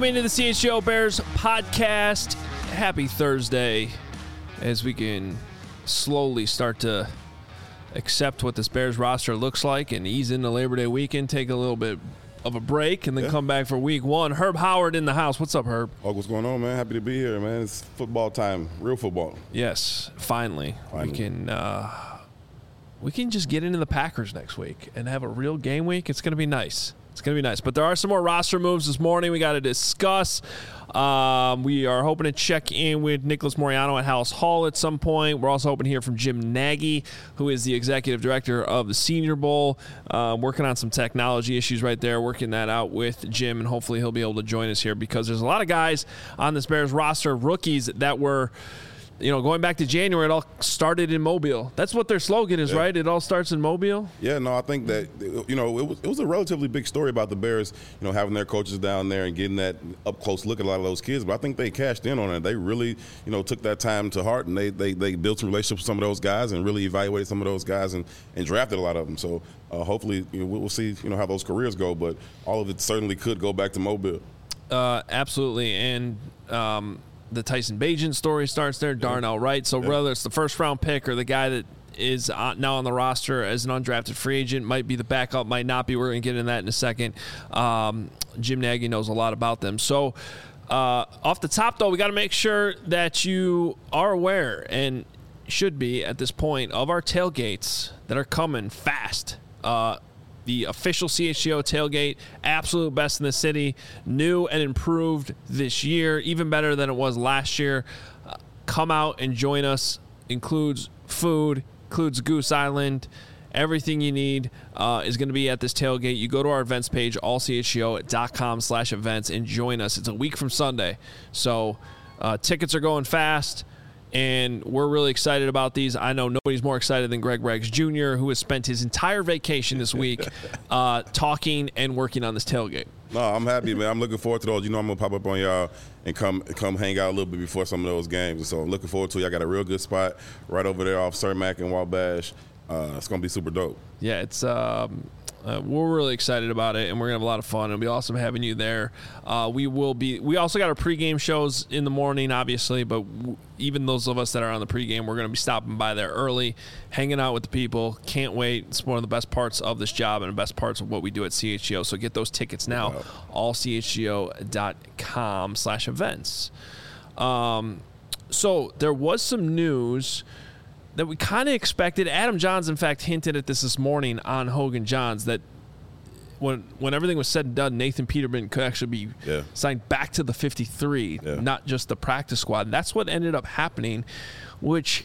into the CHGO Bears podcast. Happy Thursday, as we can slowly start to accept what this Bears roster looks like and ease into Labor Day weekend, take a little bit of a break, and then come back for week one. Herb Howard in the house. What's up, Herb? Oh, what's going on, man? Happy to be here, man. It's football time, real football. Yes, finally. We can just get into the Packers next week and have a real game week. It's going to be nice. It's going to be nice. But there are some more roster moves this morning we got to discuss. We are hoping to check in with Nicholas Moreano at House Hall at some point. We're also hoping to hear from Jim Nagy, who is the executive director of the Senior Bowl, working on some technology issues right there, working that out with Jim, and hopefully he'll be able to join us here because there's a lot of guys on this Bears roster, rookies that were – going back to January, it all started in Mobile. That's what their slogan is, right? It all starts in Mobile? Yeah, no, I think that, it was a relatively big story about the Bears, having their coaches down there and getting that up-close look at a lot of those kids. But I think they cashed in on it. They really, took that time to heart, and they built some relationships with some of those guys and really evaluated some of those guys and drafted a lot of them. So hopefully, we'll see, how those careers go. But all of it certainly could go back to Mobile. Absolutely. And the Tyson Bagent story starts there, Darnell Wright. So whether it's the first-round pick or the guy that is now on the roster as an undrafted free agent, might be the backup, might not be. We're going to get into that in a second. Jim Nagy knows a lot about them. So off the top, though, we got to make sure that you are aware and should be at this point of our tailgates that are coming fast. The official CHGO tailgate, absolute best in the city, new and improved this year, even better than it was last year. Come out and join us. Includes food, includes Goose Island. Everything you need is going to be at this tailgate. You go to our events page, allchgo.com/events, and join us. It's a week from Sunday, so tickets are going fast. And we're really excited about these. I know nobody's more excited than Greg Reggs Jr., who has spent his entire vacation this week talking and working on this tailgate. No, I'm happy, man. I'm looking forward to those. I'm going to pop up on y'all and come hang out a little bit before some of those games. And so I'm looking forward to it. I got a real good spot right over there off Cermak and Wabash. It's going to be super dope. Yeah, it's we're really excited about it, and we're going to have a lot of fun. It'll be awesome having you there. We also got our pregame shows in the morning, obviously, but even those of us that are on the pregame, we're going to be stopping by there early, hanging out with the people. Can't wait. It's one of the best parts of this job and the best parts of what we do at CHGO. So get those tickets now, allchgo.com/events. So there was some news that we kind of expected. Adam Johns, in fact, hinted at this morning on Hogan Johns, that when everything was said and done, Nathan Peterman could actually be signed back to the 53, not just the practice squad. And that's what ended up happening, which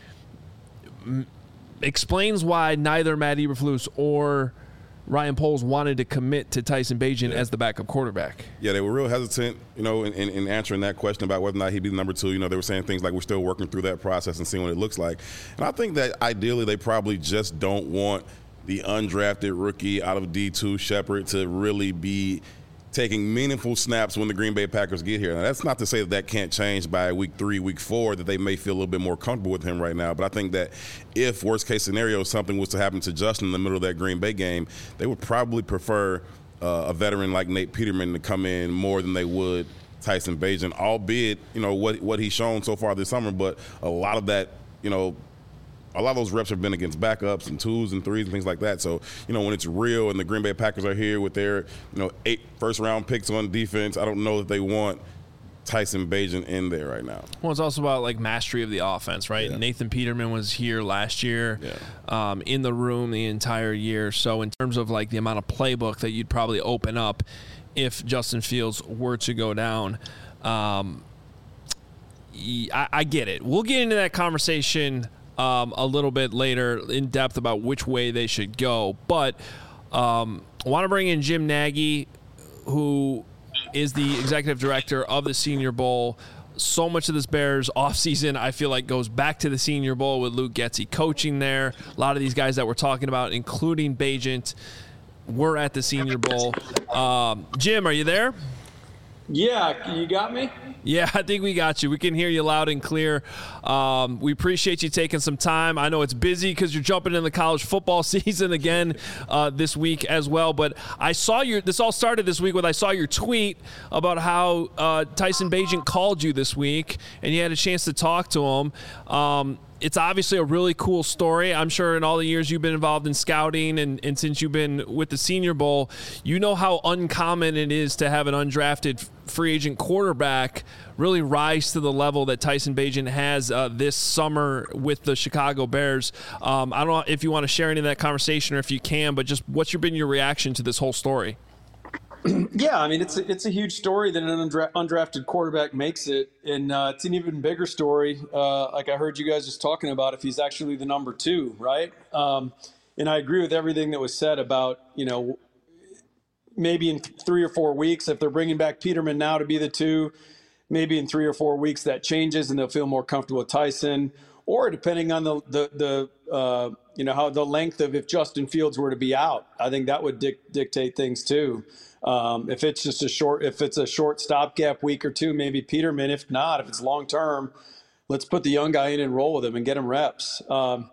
explains why neither Matt Eberflus or Ryan Poles wanted to commit to Tyson Bagent as the backup quarterback. Yeah, they were real hesitant, in answering that question about whether or not he'd be the number two. They were saying things like, we're still working through that process and seeing what it looks like. And I think that ideally they probably just don't want the undrafted rookie out of D2, Shepard, to really be taking meaningful snaps when the Green Bay Packers get here. Now, that's not to say that can't change by week 3, week 4, that they may feel a little bit more comfortable with him right now. But I think that if, worst-case scenario, something was to happen to Justin in the middle of that Green Bay game, they would probably prefer a veteran like Nate Peterman to come in more than they would Tyson Bagent, albeit, what he's shown so far this summer. But a lot of that, a lot of those reps have been against backups and 2s and 3s and things like that. So, when it's real and the Green Bay Packers are here with their, 8 first-round picks on defense, I don't know that they want Tyson Bagent in there right now. Well, it's also about, mastery of the offense, right? Yeah. Nathan Peterman was here last year in the room the entire year. So in terms of, the amount of playbook that you'd probably open up if Justin Fields were to go down, I get it. We'll get into that conversation a little bit later in depth about which way they should go. But I want to bring in Jim Nagy, who is the executive director of the Senior Bowl. So much of this Bears offseason, I feel like, goes back to the Senior Bowl with Luke Getsy coaching there. A lot of these guys that we're talking about, including Bagent, were at the Senior Bowl. Jim, are you there? Yeah, you got me? Yeah, I think we got you. We can hear you loud and clear. We appreciate you taking some time. I know it's busy because you're jumping in the college football season again this week as well. But I saw this all started this week I saw your tweet about how Tyson Bagent called you this week, and you had a chance to talk to him. It's obviously a really cool story. I'm sure in all the years you've been involved in scouting and since you've been with the Senior Bowl, you know how uncommon it is to have an undrafted free agent quarterback really rise to the level that Tyson Bagent has this summer with the Chicago Bears. I don't know if you want to share any of that conversation or if you can, but just what's been your reaction to this whole story? Yeah, I mean, it's a huge story that an undrafted quarterback makes it, and it's an even bigger story. Like I heard you guys just talking about, if he's actually the number 2, right? And I agree with everything that was said about, maybe in 3 or 4 weeks, if they're bringing back Peterman now to be the 2, maybe in 3 or 4 weeks that changes and they'll feel more comfortable with Tyson. Or depending on the how the length of if Justin Fields were to be out, I think that would dictate things too. If it's just a short stopgap week or 2, maybe Peterman. If not, if it's long term, let's put the young guy in and roll with him and get him reps.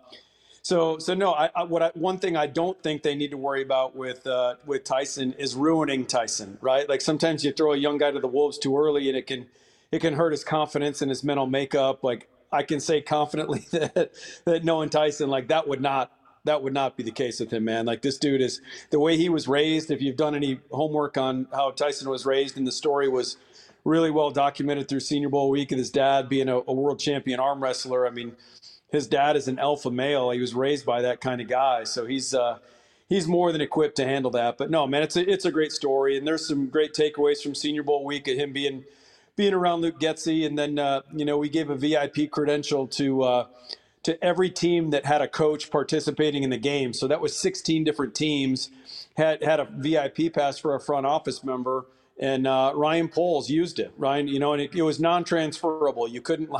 So no, one thing I don't think they need to worry about with Tyson is ruining Tyson, right? Like sometimes you throw a young guy to the wolves too early and it can hurt his confidence and his mental makeup. Like I can say confidently that knowing Tyson, like that would not be the case with him, man. Like this dude is the way he was raised. If you've done any homework on how Tyson was raised, and the story was really well documented through Senior Bowl week of his dad being a world champion arm wrestler. I mean, his dad is an alpha male. He was raised by that kind of guy. So he's more than equipped to handle that. But no, man, it's a great story. And there's some great takeaways from Senior Bowl week of him being around Luke Getsy. And then, we gave a VIP credential to every team that had a coach participating in the game. So that was 16 different teams had a VIP pass for a front office member. And Ryan Poles used it, Ryan, and it was non-transferable. You couldn't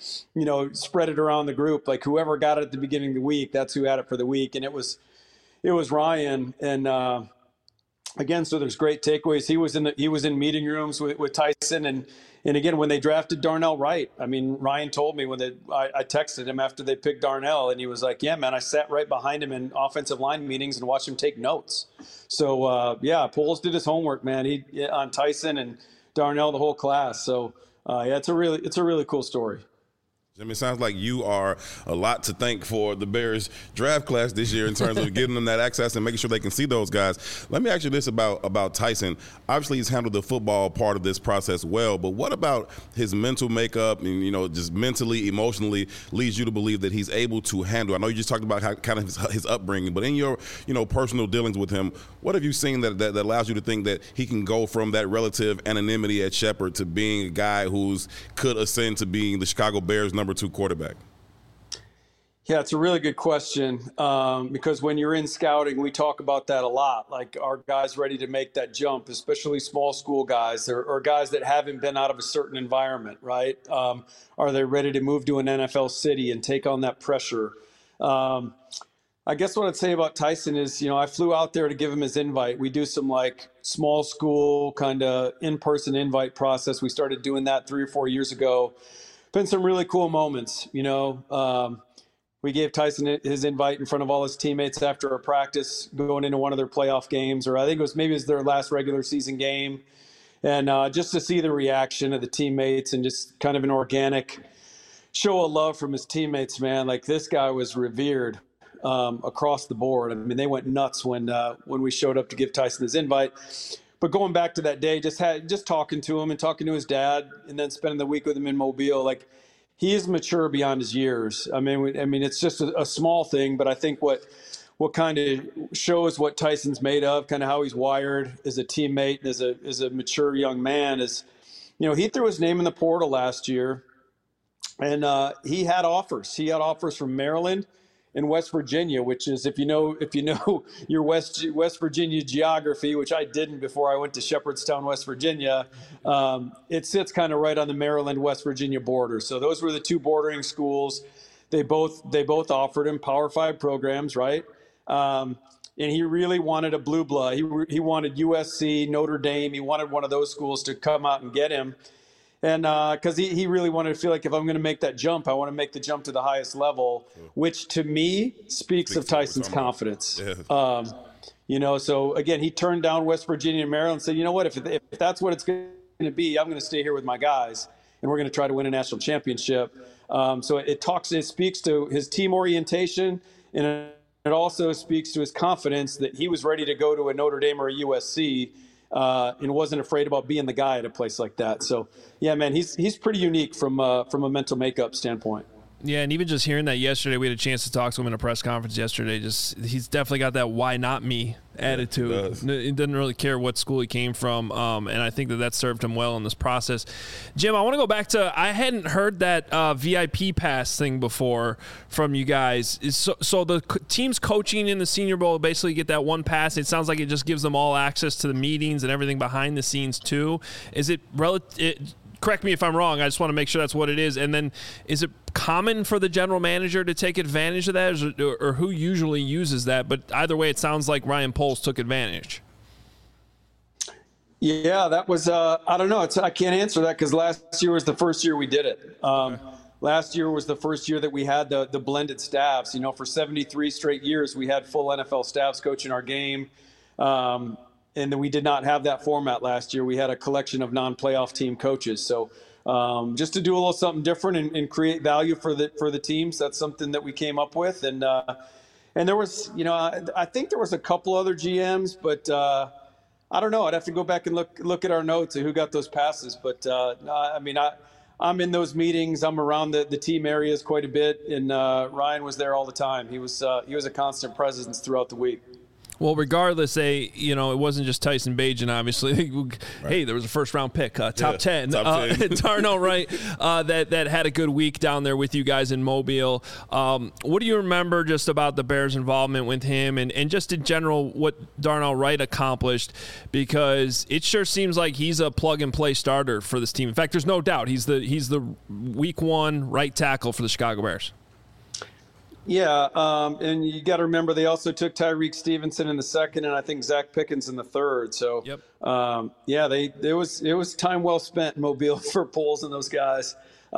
spread it around the group. Like whoever got it at the beginning of the week, that's who had it for the week. And it was Ryan. And again, so there's great takeaways. He was in meeting rooms with Tyson. And again, when they drafted Darnell Wright, I mean, Ryan told me I texted him after they picked Darnell, and he was like, yeah, man, I sat right behind him in offensive line meetings and watched him take notes. So, Poles did his homework, man. On Tyson and Darnell, the whole class. So, it's a really cool story. I mean, it sounds like you are a lot to thank for the Bears draft class this year in terms of getting them that access and making sure they can see those guys. Let me ask you this about Tyson. Obviously, he's handled the football part of this process well, but what about his mental makeup and, just mentally, emotionally leads you to believe that he's able to handle? I know you just talked about how kind of his upbringing, but in your, personal dealings with him, what have you seen that allows you to think that he can go from that relative anonymity at Shepherd to being a guy who's could ascend to being the Chicago Bears number 2 quarterback? Yeah, it's a really good question because when you're in scouting, we talk about that a lot. Like, are guys ready to make that jump, especially small school guys or guys that haven't been out of a certain environment, right? Are they ready to move to an NFL city and take on that pressure? I guess what I'd say about Tyson is, I flew out there to give him his invite. We do some small school kind of in-person invite process. We started doing that 3 or 4 years ago. Been some really cool moments, we gave Tyson his invite in front of all his teammates after a practice going into one of their playoff games, or I think it was their last regular season game. And just to see the reaction of the teammates and just kind of an organic show of love from his teammates, man, like this guy was revered across the board. I mean, they went nuts when we showed up to give Tyson his invite. But going back to that day, just talking to him and talking to his dad and then spending the week with him in Mobile, like he is mature beyond his years. I mean, it's just a small thing, but I think what kind of shows what Tyson's made of, kind of how he's wired as a teammate and as a mature young man is, he threw his name in the portal last year and he had offers. He had offers from Maryland in West Virginia, which is if you know your West Virginia geography, which I didn't before I went to Shepherdstown, West Virginia, it sits kind of right on the Maryland-West Virginia border. So those were the 2 bordering schools. They both offered him Power 5 programs, right? and he really wanted a blue blood. He wanted USC, Notre Dame. He wanted one of those schools to come out and get him. And because he really wanted to feel like if I'm going to make that jump, I want to make the jump to the highest level, which to me speaks of Tyson's confidence. Yeah. So again, he turned down West Virginia and Maryland and said, you know what, if that's what it's going to be, I'm going to stay here with my guys, and we're going to try to win a national championship. So it speaks to his team orientation, and it also speaks to his confidence that he was ready to go to a Notre Dame or a USC. And wasn't afraid about being the guy at a place like that. So, yeah, man, he's pretty unique from a mental makeup standpoint. Yeah, and even just hearing that yesterday, we had a chance to talk to him in a press conference yesterday. He's definitely got that "why not me" attitude. He doesn't really care what school he came from, and I think that served him well in this process. Jim, I want to go back to I hadn't heard that VIP pass thing before from you guys. So the teams coaching in the Senior Bowl basically get that one pass. It sounds like it just gives them all access to the meetings and everything behind the scenes too. Is it correct me if I'm wrong. I just want to make sure that's what it is. And then is it common for the general manager to take advantage of that, or who usually uses that? But either way, it sounds like Ryan Poles took advantage. Yeah, that was, I don't know. I can't answer that because last year was the first year we did it. Last year was the first year that we had the blended staffs. For 73 straight years, we had full NFL staffs coaching our game. And then we did not have that format last year. We had a collection of non-playoff team coaches. So just to do a little something different and create value for the teams, that's something that we came up with. And there was, I think there was a couple other GMs, but I don't know. I'd have to go back and look at our notes of who got those passes. But I'm in those meetings. I'm around the team areas quite a bit, and Ryan was there all the time. He was a constant presence throughout the week. Well, regardless, it wasn't just Tyson Bagent, obviously. Right. Hey, there was a first-round pick, top 10. Top 10. Darnell Wright, that had a good week down there with you guys in Mobile. What do you remember just about the Bears' involvement with him and just in general what Darnell Wright accomplished? Because it sure seems like he's a plug-and-play starter for this team. In fact, there's no doubt he's the week one right tackle for the Chicago Bears. Yeah, and you got to remember they also took Tyreek Stevenson in the second, and I think Zach Pickens in the third. So, yep. It was time well spent in Mobile for Poles and those guys.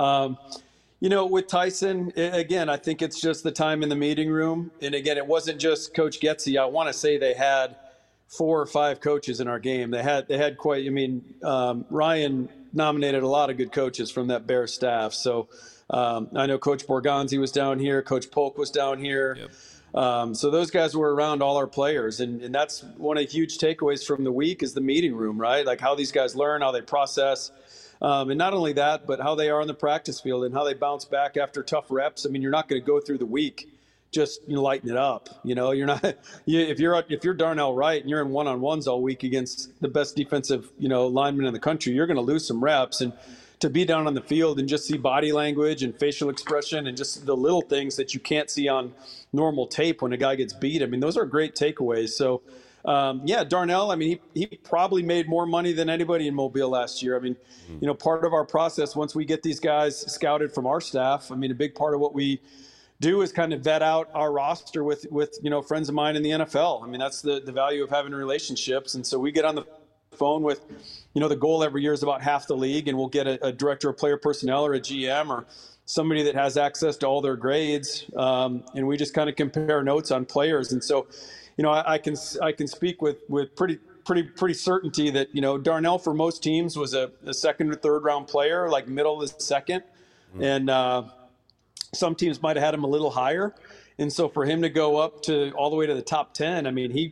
With Tyson, again, I think it's just the time in the meeting room. And again, it wasn't just Coach Getsy. I want to say they had 4 or 5 coaches in our game. They had quite. Ryan nominated a lot of good coaches from that Bears staff. So. I know Coach Borgonzi was down here. Coach Polk was down here. Yep. So those guys were around all our players. And that's one of the huge takeaways from the week is the meeting room, right? Like how these guys learn, how they process. And not only that, but how they are on the practice field and how they bounce back after tough reps. You're not going to go through the week just lighten it up. You're not. If you're Darnell Wright and you're in one-on-ones all week against the best defensive lineman in the country, you're going to lose some reps. And to be down on the field and just see body language and facial expression and just the little things that you can't see on normal tape when a guy gets beat. Those are great takeaways. So, Darnell, he probably made more money than anybody in Mobile last year. Part of our process, once we get these guys scouted from our staff, a big part of what we do is kind of vet out our roster with friends of mine in the NFL. That's the value of having relationships. And so we get on the phone with, the goal every year is about half the league, and we'll get a director of player personnel or a GM or somebody that has access to all their grades, and we just kind of compare notes on players. And so, I can speak with pretty certainty that Darnell for most teams was a second or third round player, like middle of the second, and some teams might have had him a little higher. And so for him to go up to all the way to the top 10,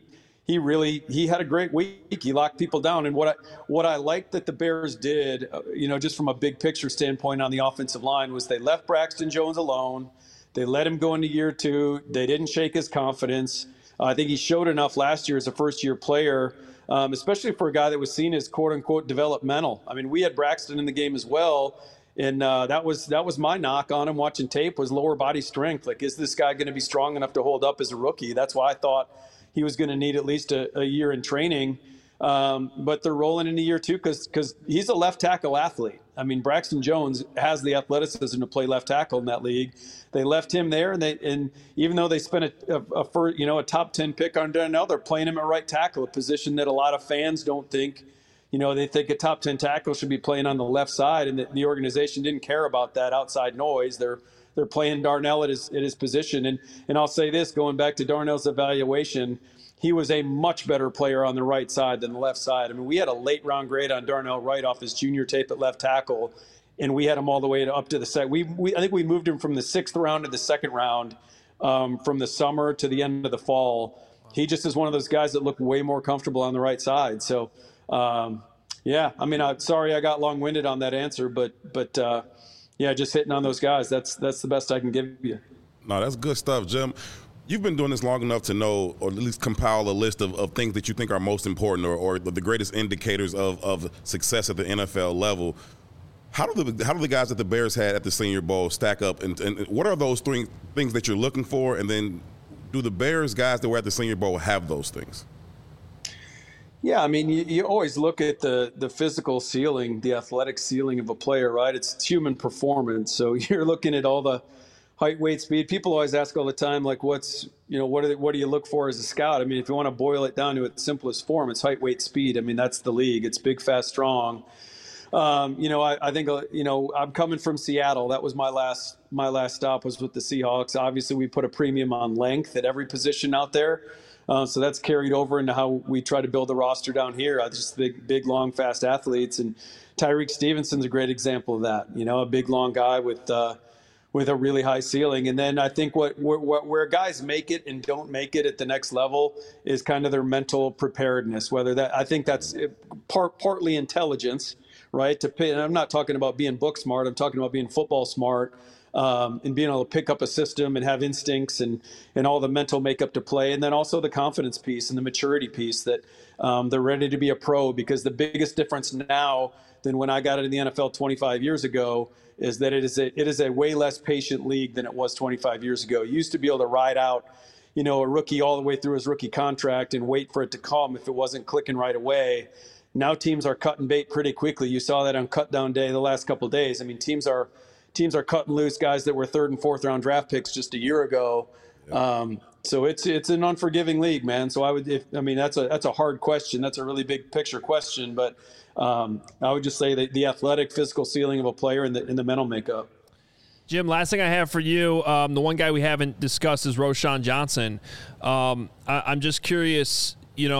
he had a great week. He locked people down. And what I liked that the Bears did, just from a big picture standpoint on the offensive line, was they left Braxton Jones alone. They let him go into year 2. They didn't shake his confidence. I think he showed enough last year as a first-year player, especially for a guy that was seen as quote-unquote developmental. We had Braxton in the game as well, and that was my knock on him watching tape was lower body strength. Like, is this guy going to be strong enough to hold up as a rookie? That's why I thought he was going to need at least a year in training. But they're rolling into year 2 because he's a left tackle athlete. I mean, Braxton Jones has the athleticism to play left tackle in that league. They left him there, and even though they spent a top 10 pick on Darnell, they're playing him at right tackle, a position that a lot of fans don't think. They think a top 10 tackle should be playing on the left side, and the organization didn't care about that outside noise. They're playing Darnell at his position, and I'll say this, going back to Darnell's evaluation, he was a much better player on the right side than the left side. I mean, we had a late round grade on Darnell Wright off his junior tape at left tackle, and we had him all the way up to the second. I think we moved him from the 6th round to the 2nd round, from the summer to the end of the fall. He just is one of those guys that look way more comfortable on the right side. So, yeah, I mean, I'm sorry I got long-winded on that answer, but yeah, just hitting on those guys. That's the best I can give you. No, that's good stuff, Jim. You've been doing this long enough to know, or at least compile a list of things that you think are most important or the greatest indicators of success at the NFL level. How do the guys that the Bears had at the Senior Bowl stack up, and what are those three things that you're looking for? And then do the Bears guys that were at the Senior Bowl have those things? Yeah, I mean, you always look at the physical ceiling, the athletic ceiling of a player, right? It's human performance. So you're looking at all the height, weight, speed. People always ask all the time, like, what do you look for as a scout? I mean, if you want to boil it down to its simplest form, it's height, weight, speed. I mean, that's the league. It's big, fast, strong. I think, I'm coming from Seattle. That was my last stop was with the Seahawks. Obviously, we put a premium on length at every position out there. So that's carried over into how we try to build the roster down here. Just big, long, fast athletes. And Tyreek Stevenson's a great example of that. A big, long guy with a really high ceiling. And then I think where guys make it and don't make it at the next level is kind of their mental preparedness. I think that's partly intelligence, right? And I'm not talking about being book smart. I'm talking about being football smart. And being able to pick up a system and have instincts and all the mental makeup to play. And then also the confidence piece and the maturity piece that they're ready to be a pro, because the biggest difference now than when I got into the NFL 25 years ago is that it is a way less patient league than it was 25 years ago. You used to be able to ride out, a rookie all the way through his rookie contract and wait for it to come if it wasn't clicking right away. Now teams are cutting bait pretty quickly. You saw that on cut down day the last couple of days. I mean, teams are cutting loose guys that were 3rd and 4th round draft picks just a year ago. Yeah. So it's an unforgiving league, man. So that's a hard question. That's a really big picture question, but I would just say that the athletic, physical ceiling of a player and the mental makeup. Jim, last thing I have for you, the one guy we haven't discussed is Roschon Johnson. I'm just curious,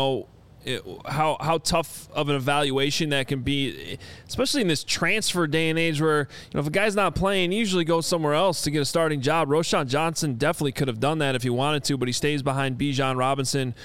how tough of an evaluation that can be, especially in this transfer day and age where, if a guy's not playing, he usually goes somewhere else to get a starting job. Roschon Johnson definitely could have done that if he wanted to, but he stays behind Bijan Robinson.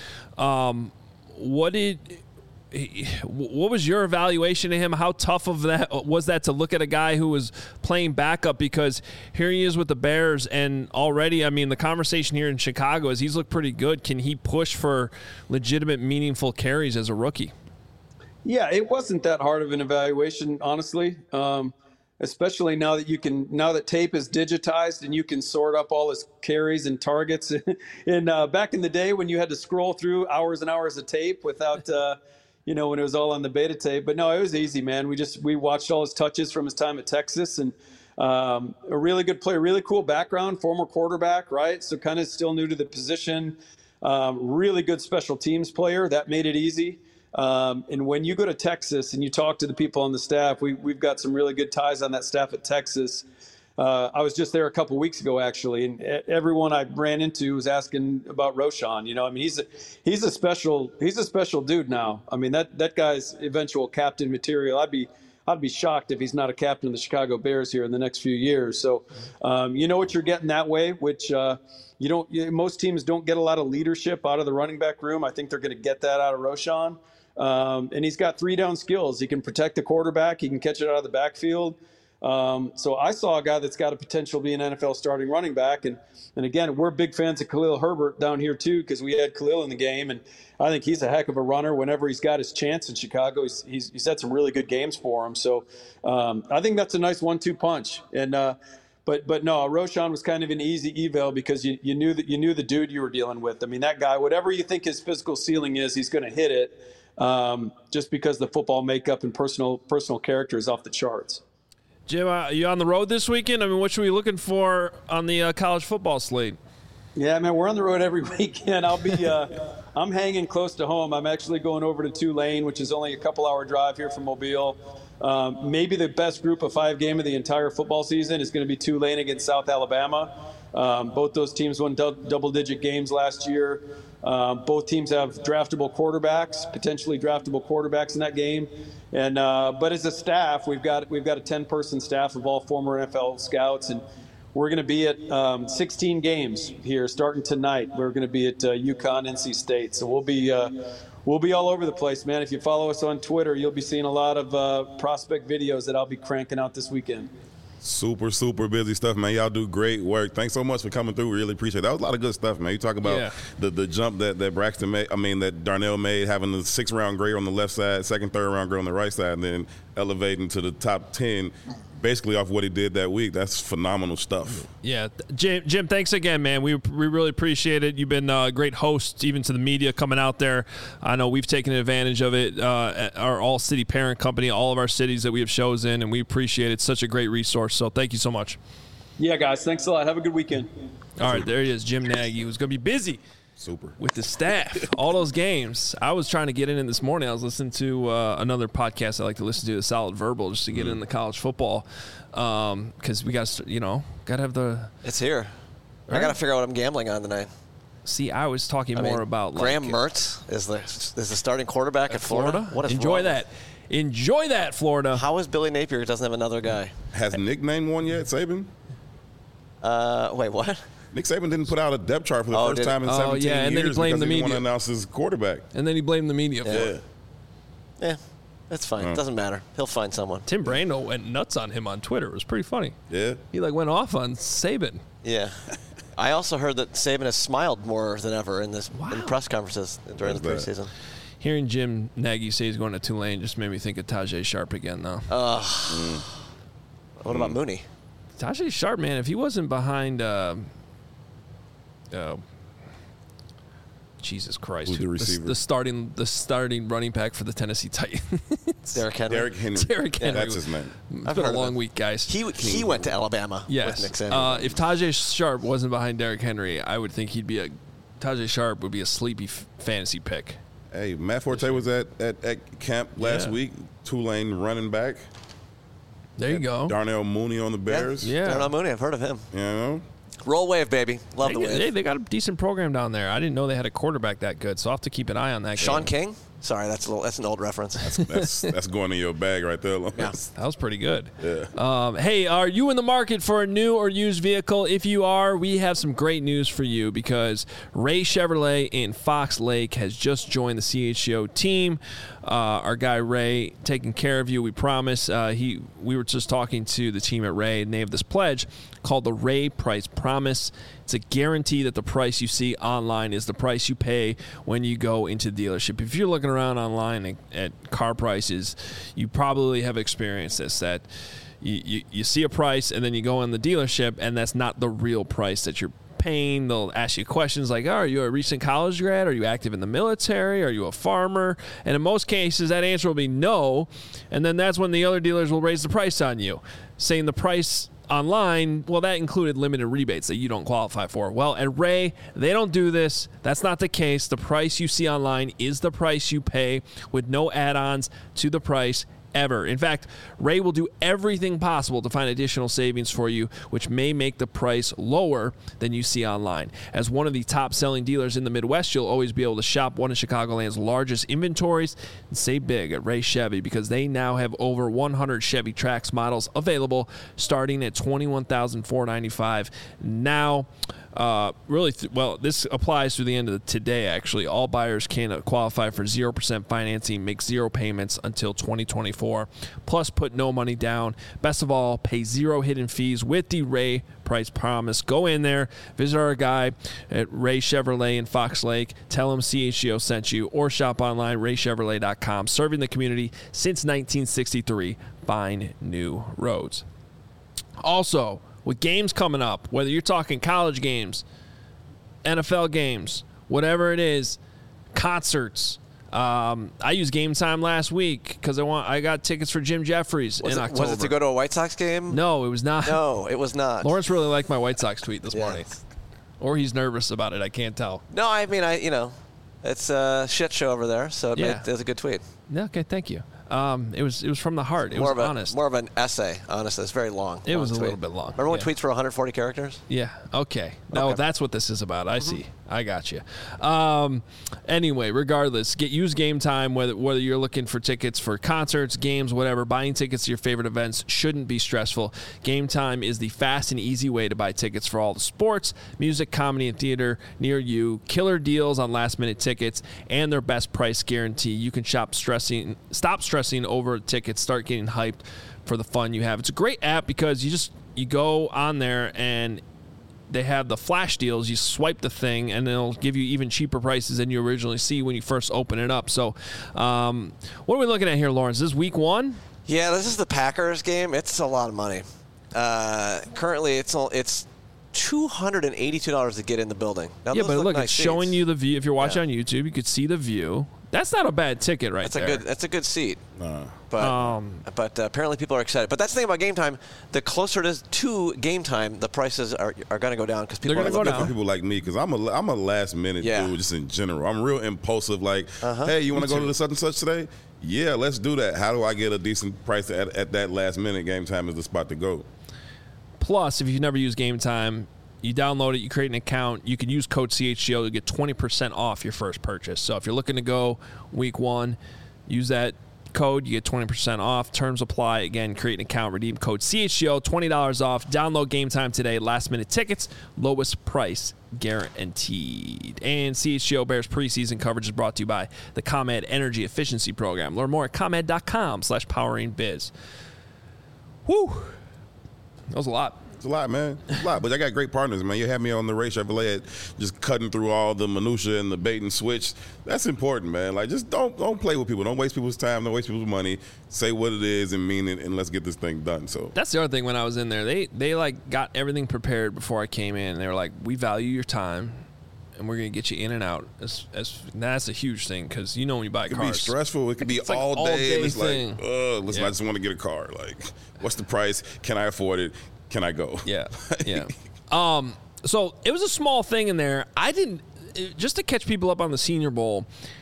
What was your evaluation of him? How tough of that was that to look at a guy who was playing backup? Because here he is with the Bears, and already, I mean, the conversation here in Chicago is he's looked pretty good. Can he push for legitimate, meaningful carries as a rookie? Yeah, it wasn't that hard of an evaluation, honestly. Especially now that tape is digitized and you can sort up all his carries and targets. And back in the day when you had to scroll through hours and hours of tape without. When it was all on the beta tape. But no, it was easy, man. We watched all his touches from his time at Texas, and a really good player, really cool background, former quarterback, right? So kind of still new to the position. Really good special teams player. That made it easy. And when you go to Texas and you talk to the people on the staff, we've got some really good ties on that staff at Texas. I was just there a couple weeks ago, actually, and everyone I ran into was asking about Roschon. He's a special dude now. I mean, that guy's eventual captain material. I'd be shocked if he's not a captain of the Chicago Bears here in the next few years. So, you know what you're getting that way, which most teams don't get a lot of leadership out of the running back room. I think they're going to get that out of Roschon. And he's got 3-down skills. He can protect the quarterback. He can catch it out of the backfield. So I saw a guy that's got a potential to be an NFL starting running back. And again, we're big fans of Khalil Herbert down here too, because we had Khalil in the game. And I think he's a heck of a runner whenever he's got his chance in Chicago. He's had some really good games for him. So I think that's a nice 1-2 punch. And but no, Roschon was kind of an easy eval because you knew the dude you were dealing with. I mean, that guy, whatever you think his physical ceiling is, he's going to hit it. Just because the football makeup and personal character is off the charts. Jim, are you on the road this weekend? I mean, what should we be looking for on the college football slate? Yeah, man, we're on the road every weekend. I'll be I'm hanging close to home. I'm actually going over to Tulane, which is only a couple-hour drive here from Mobile. Maybe the best group of 5 game of the entire football season is going to be Tulane against South Alabama. Both those teams won double-digit games last year. Both teams have draftable quarterbacks, potentially draftable quarterbacks in that game. And but as a staff, we've got a 10-person staff of all former NFL scouts, and we're going to be at 16 games here starting tonight. We're going to be at UConn, NC State. So we'll be all over the place, man. If you follow us on Twitter, you'll be seeing a lot of prospect videos that I'll be cranking out this weekend. Super, super busy stuff, man. Y'all do great work. Thanks so much for coming through. Really appreciate it. That was a lot of good stuff, man. You talk about the jump that Braxton made, that Darnell made, having the 6th-round grade on the left side, 2nd, 3rd-round grade on the right side, and then elevating to the top 10 basically off what he did that week. That's phenomenal stuff. Yeah. Jim, thanks again, man. We really appreciate it. You've been a great host, even to the media coming out there. I know we've taken advantage of it. Our all-city parent company, all of our cities that we have shows in, and we appreciate it. It's such a great resource. So thank you so much. Yeah, guys. Thanks a lot. Have a good weekend. All right, there he is, Jim Nagy, who's going to be busy. Super. With the staff, all those games. I was trying to get in this morning. I was listening to another podcast I like to listen to, The Solid Verbal, just to get in the college football. Because we got to, got to have the. It's here. Right? I got to figure out what I'm gambling on tonight. See, I was talking more about Graham Mertz is the starting quarterback at Florida. What is Enjoy that. Enjoy that, Florida. How is Billy Napier doesn't have another guy? Has Nick named one yet, Saban? Wait, what? Nick Saban didn't put out a depth chart for the first time in 17 years and then he blamed the media. He didn't want to announce his quarterback. And then he blamed the media for it. Yeah, that's fine. It doesn't matter. He'll find someone. Tim Brando went nuts on him on Twitter. It was pretty funny. Yeah. He went off on Saban. Yeah. I also heard that Saban has smiled more than ever in press conferences during the preseason. Hearing Jim Nagy say he's going to Tulane just made me think of Tajay Sharp again, though. What about Mooney? Tajay Sharp, man, if he wasn't behind Jesus Christ, who's the receiver? The starting running back for the Tennessee Titans. Derrick Henry. Derrick Henry. That's his name. It's been a long week, guys. He went to Alabama with Nick Saban. If Tajay Sharp wasn't behind Derrick Henry, I would think Tajay Sharp would be a sleepy fantasy pick. Hey, Matt Forte was at camp last week. Tulane running back. There you go. Darnell Mooney on the Bears. Yeah. Darnell Mooney, I've heard of him. You know? Roll wave, baby. Love the wave. They got a decent program down there. I didn't know they had a quarterback that good, so I'll have to keep an eye on that. Sean King? Sorry, that's an old reference. That's going in your bag right there. Yeah. That was pretty good. Yeah. Hey, are you in the market for a new or used vehicle? If you are, we have some great news for you because Ray Chevrolet in Fox Lake has just joined the CHGO team. Our guy Ray taking care of you, we promise. We were just talking to the team at Ray, and they have this pledge called the Ray Price Promise. It's a guarantee that the price you see online is the price you pay when you go into the dealership. If you're looking around online at car prices, you probably have experienced this, that you see a price and then you go in the dealership and that's not the real price that you're paying. They'll ask you questions like, are you a recent college grad? Are you active in the military? Are you a farmer? And in most cases, that answer will be no. And then that's when the other dealers will raise the price on you, saying the price online, well, that included limited rebates that you don't qualify for. Well, at Ray, they don't do this. That's not the case. The price you see online is the price you pay with no add-ons to the price ever. In fact, Ray will do everything possible to find additional savings for you, which may make the price lower than you see online. As one of the top-selling dealers in the Midwest, you'll always be able to shop one of Chicagoland's largest inventories and save big at Ray Chevy because they now have over 100 Chevy Trax models available starting at $21,495 now. This applies through the end of today, actually. All buyers can qualify for 0% financing, make 0 payments until 2024, plus put no money down. Best of all, pay 0 hidden fees with the Ray Price Promise. Go in there, visit our guy at Ray Chevrolet in Fox Lake, tell him CHGO sent you, or shop online, raychevrolet.com. Serving the community since 1963. Find new roads. Also, with games coming up, whether you're talking college games, NFL games, whatever it is, concerts, I used Game Time last week because I got tickets for Jim Jeffries in October. Was it to go to a White Sox game? No, it was not. No, it was not. Lawrence really liked my White Sox tweet this morning. Or he's nervous about it. I can't tell. No, I mean, it's a shit show over there, so it was a good tweet. Yeah, okay, thank you. It was from the heart. It was honest. More of an essay, honestly. It's very long. It was a tweet. little bit long. Remember when tweets were 140 characters? Yeah, okay. No, that's what this is about. I see. I got you. Anyway, regardless, use Game Time, whether you're looking for tickets for concerts, games, whatever. Buying tickets to your favorite events shouldn't be stressful. Game Time is the fast and easy way to buy tickets for all the sports, music, comedy, and theater near you. Killer deals on last-minute tickets and their best price guarantee. You can stop stressing over tickets, start getting hyped for the fun you have. It's a great app because you go on there and they have the flash deals. You swipe the thing, and they'll give you even cheaper prices than you originally see when you first open it up. So what are we looking at here, Lawrence? This is week 1? Yeah, this is the Packers game. It's a lot of money. Currently, it's $282 to get in the building. Now, yeah, but look, nice it's seats. showing you the view. If you're watching on YouTube, you could see the view. That's not a bad ticket there. That's a good seat. But apparently people are excited. But that's the thing about Game Time. The closer it is to Game Time, the prices are going to go down because people are going to go down. For people like me, because I'm a last minute dude just in general. I'm real impulsive. Like, hey, you want to go to the such and such today? Yeah, let's do that. How do I get a decent price at that last minute? Game Time is the spot to go. Plus, if you've never used Game Time, you download it, you create an account, you can use code CHGO to get 20% off your first purchase. So if you're looking to go week 1, use that code, you get 20% off. Terms apply. Again, create an account, redeem code CHGO, $20 off. Download Game Time today. Last minute tickets, lowest price guaranteed. And CHGO Bears preseason coverage is brought to you by the ComEd Energy Efficiency Program. Learn more at ComEd.com/poweringbiz. Whew. That was a lot. It's a lot, man. It's a lot. But I got great partners, man. You have me on the Ray Chevrolet just cutting through all the minutia and the bait and switch. That's important, man. Like, just don't play with people. Don't waste people's time. Don't waste people's money. Say what it is and mean it, and let's get this thing done. So that's the other thing. When I was in there, they like got everything prepared before I came in. They were like, we value your time, and we're going to get you in and out. That's a huge thing because when you buy cars. It could be stressful. It could be all day. And it's thing. I just want to get a car. Like, what's the price? Can I afford it? Can I go? Yeah. So it was a small thing in there. Just to catch people up on the Senior Bowl,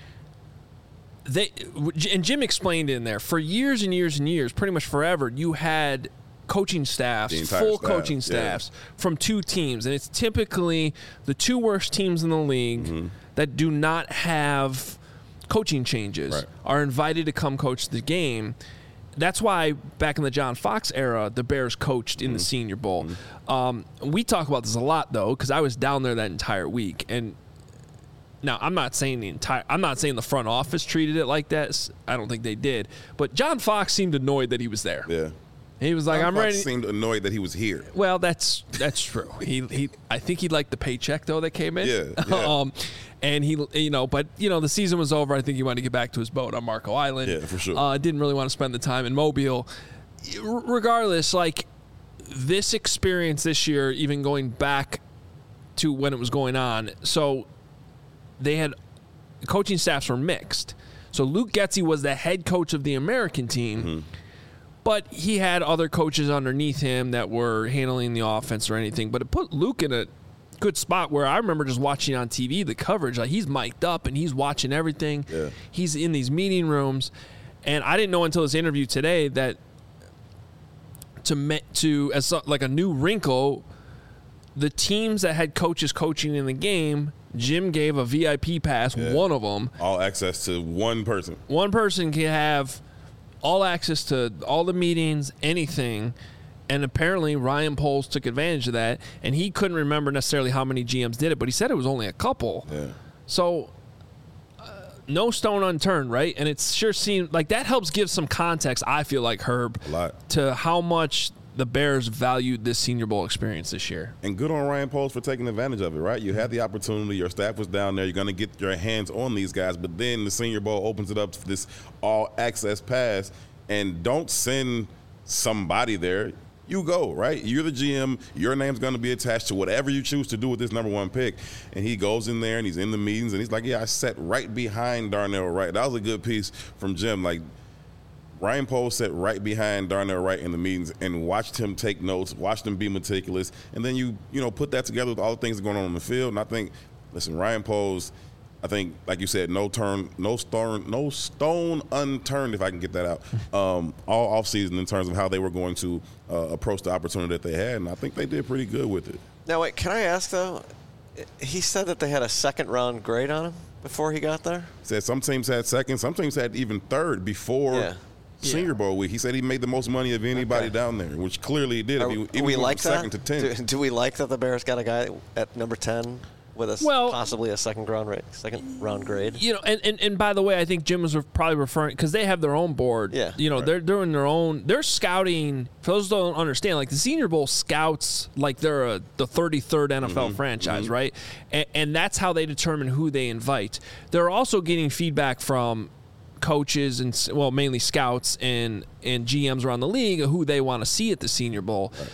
and Jim explained in there, for years and years and years, pretty much forever, you had coaching staffs, coaching staffs from 2 teams. And it's typically the 2 worst teams in the league that do not have coaching changes are invited to come coach the game. That's why back in the John Fox era, the Bears coached in the Senior Bowl. We talk about this a lot, though, because I was down there that entire week. And now I'm not saying the front office treated it like that. I don't think they did. But John Fox seemed annoyed that he was there. Yeah. He was like, John I'm ready. Fox seemed annoyed that he was here. Well, that's true. I think he liked the paycheck though that came in. Yeah. And but the season was over. I think he wanted to get back to his boat on Marco Island. Yeah, for sure. Didn't really want to spend the time in Mobile. Regardless, like this experience this year, even going back to when it was going on, so they had coaching staffs were mixed. So Luke Getsy was the head coach of the American team. But he had other coaches underneath him that were handling the offense or anything. But it put Luke in a good spot where I remember just watching on TV the coverage. Like, he's mic'd up and he's watching everything. Yeah. He's in these meeting rooms. And I didn't know until this interview today that as like a new wrinkle, the teams that had coaches coaching in the game, Jim gave a VIP pass, one of them. All access to one person. One person can have all access to all the meetings, anything, and apparently Ryan Poles took advantage of that, and he couldn't remember necessarily how many GMs did it, but he said it was only a couple. Yeah. So no stone unturned, right? And it sure seemed like that helps give some context, I feel like, Herb, a lot, to how much the Bears valued this Senior Bowl experience this year. And good on Ryan Poles for taking advantage of it, right? You had the opportunity. Your staff was down there. You're going to get your hands on these guys. But then the Senior Bowl opens it up for this all-access pass. And don't send somebody there. you go, right? You're the GM. Your name's going to be attached to whatever you choose to do with this number one pick. And he goes in there and he's in the meetings and he's like, yeah, I sat right behind Darnell Wright. That was a good piece from Jim. Like, Ryan Poles sat right behind Darnell Wright in the meetings and watched him take notes, watched him be meticulous. And then you put that together with all the things going on the field. And I think, listen, Ryan Poles, I think, like you said, no stone unturned, if I can get that out, all offseason in terms of how they were going to approach the opportunity that they had, and I think they did pretty good with it. Now, wait, can I ask, though? He said that they had a second-round grade on him before he got there? He said some teams had second, some teams had even third before Senior Bowl week. He said he made the most money of anybody down there, which clearly he did. Do we like that? Second to 10. Do we like that the Bears got a guy at number 10? With possibly a second round grade. And by the way, I think Jim was probably referring, because they have their own board. Yeah. They're doing their own. They're scouting. For those who don't understand, like the Senior Bowl scouts, like they're the 33rd NFL franchise, right? And that's how they determine who they invite. They're also getting feedback from coaches and mainly scouts and GMs around the league of who they want to see at the Senior Bowl. Right.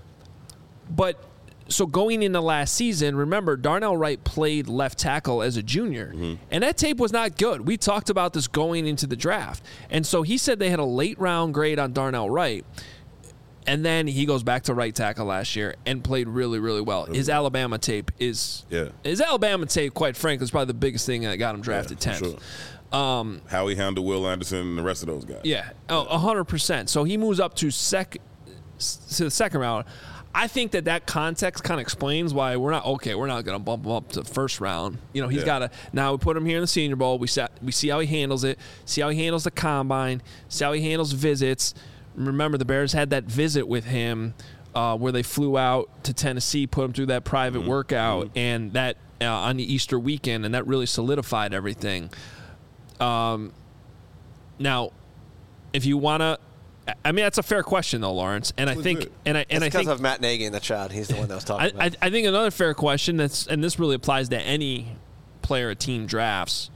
But so going into last season, remember, Darnell Wright played left tackle as a junior, and that tape was not good. We talked about this going into the draft. And so he said they had a late-round grade on Darnell Wright, and then he goes back to right tackle last year and played really, really well. His Alabama tape quite frankly, is probably the biggest thing that got him drafted 10th. Sure. How he handled Will Anderson and the rest of those guys. Yeah, 100%. So he moves up to the second round. I think that context kind of explains why we're not going to bump him up to the first round. He's got to, now we put him here in the Senior Bowl. We see how he handles it, see how he handles the combine, see how he handles visits. Remember, the Bears had that visit with him where they flew out to Tennessee, put him through that private workout, and that on the Easter weekend, and that really solidified everything. Now, if you want to, I mean, that's a fair question, though, Lawrence. And I think, it's because of Matt Nagy in the chat. He's the one that was talking about it. I think another fair question and this really applies to any player a team drafts.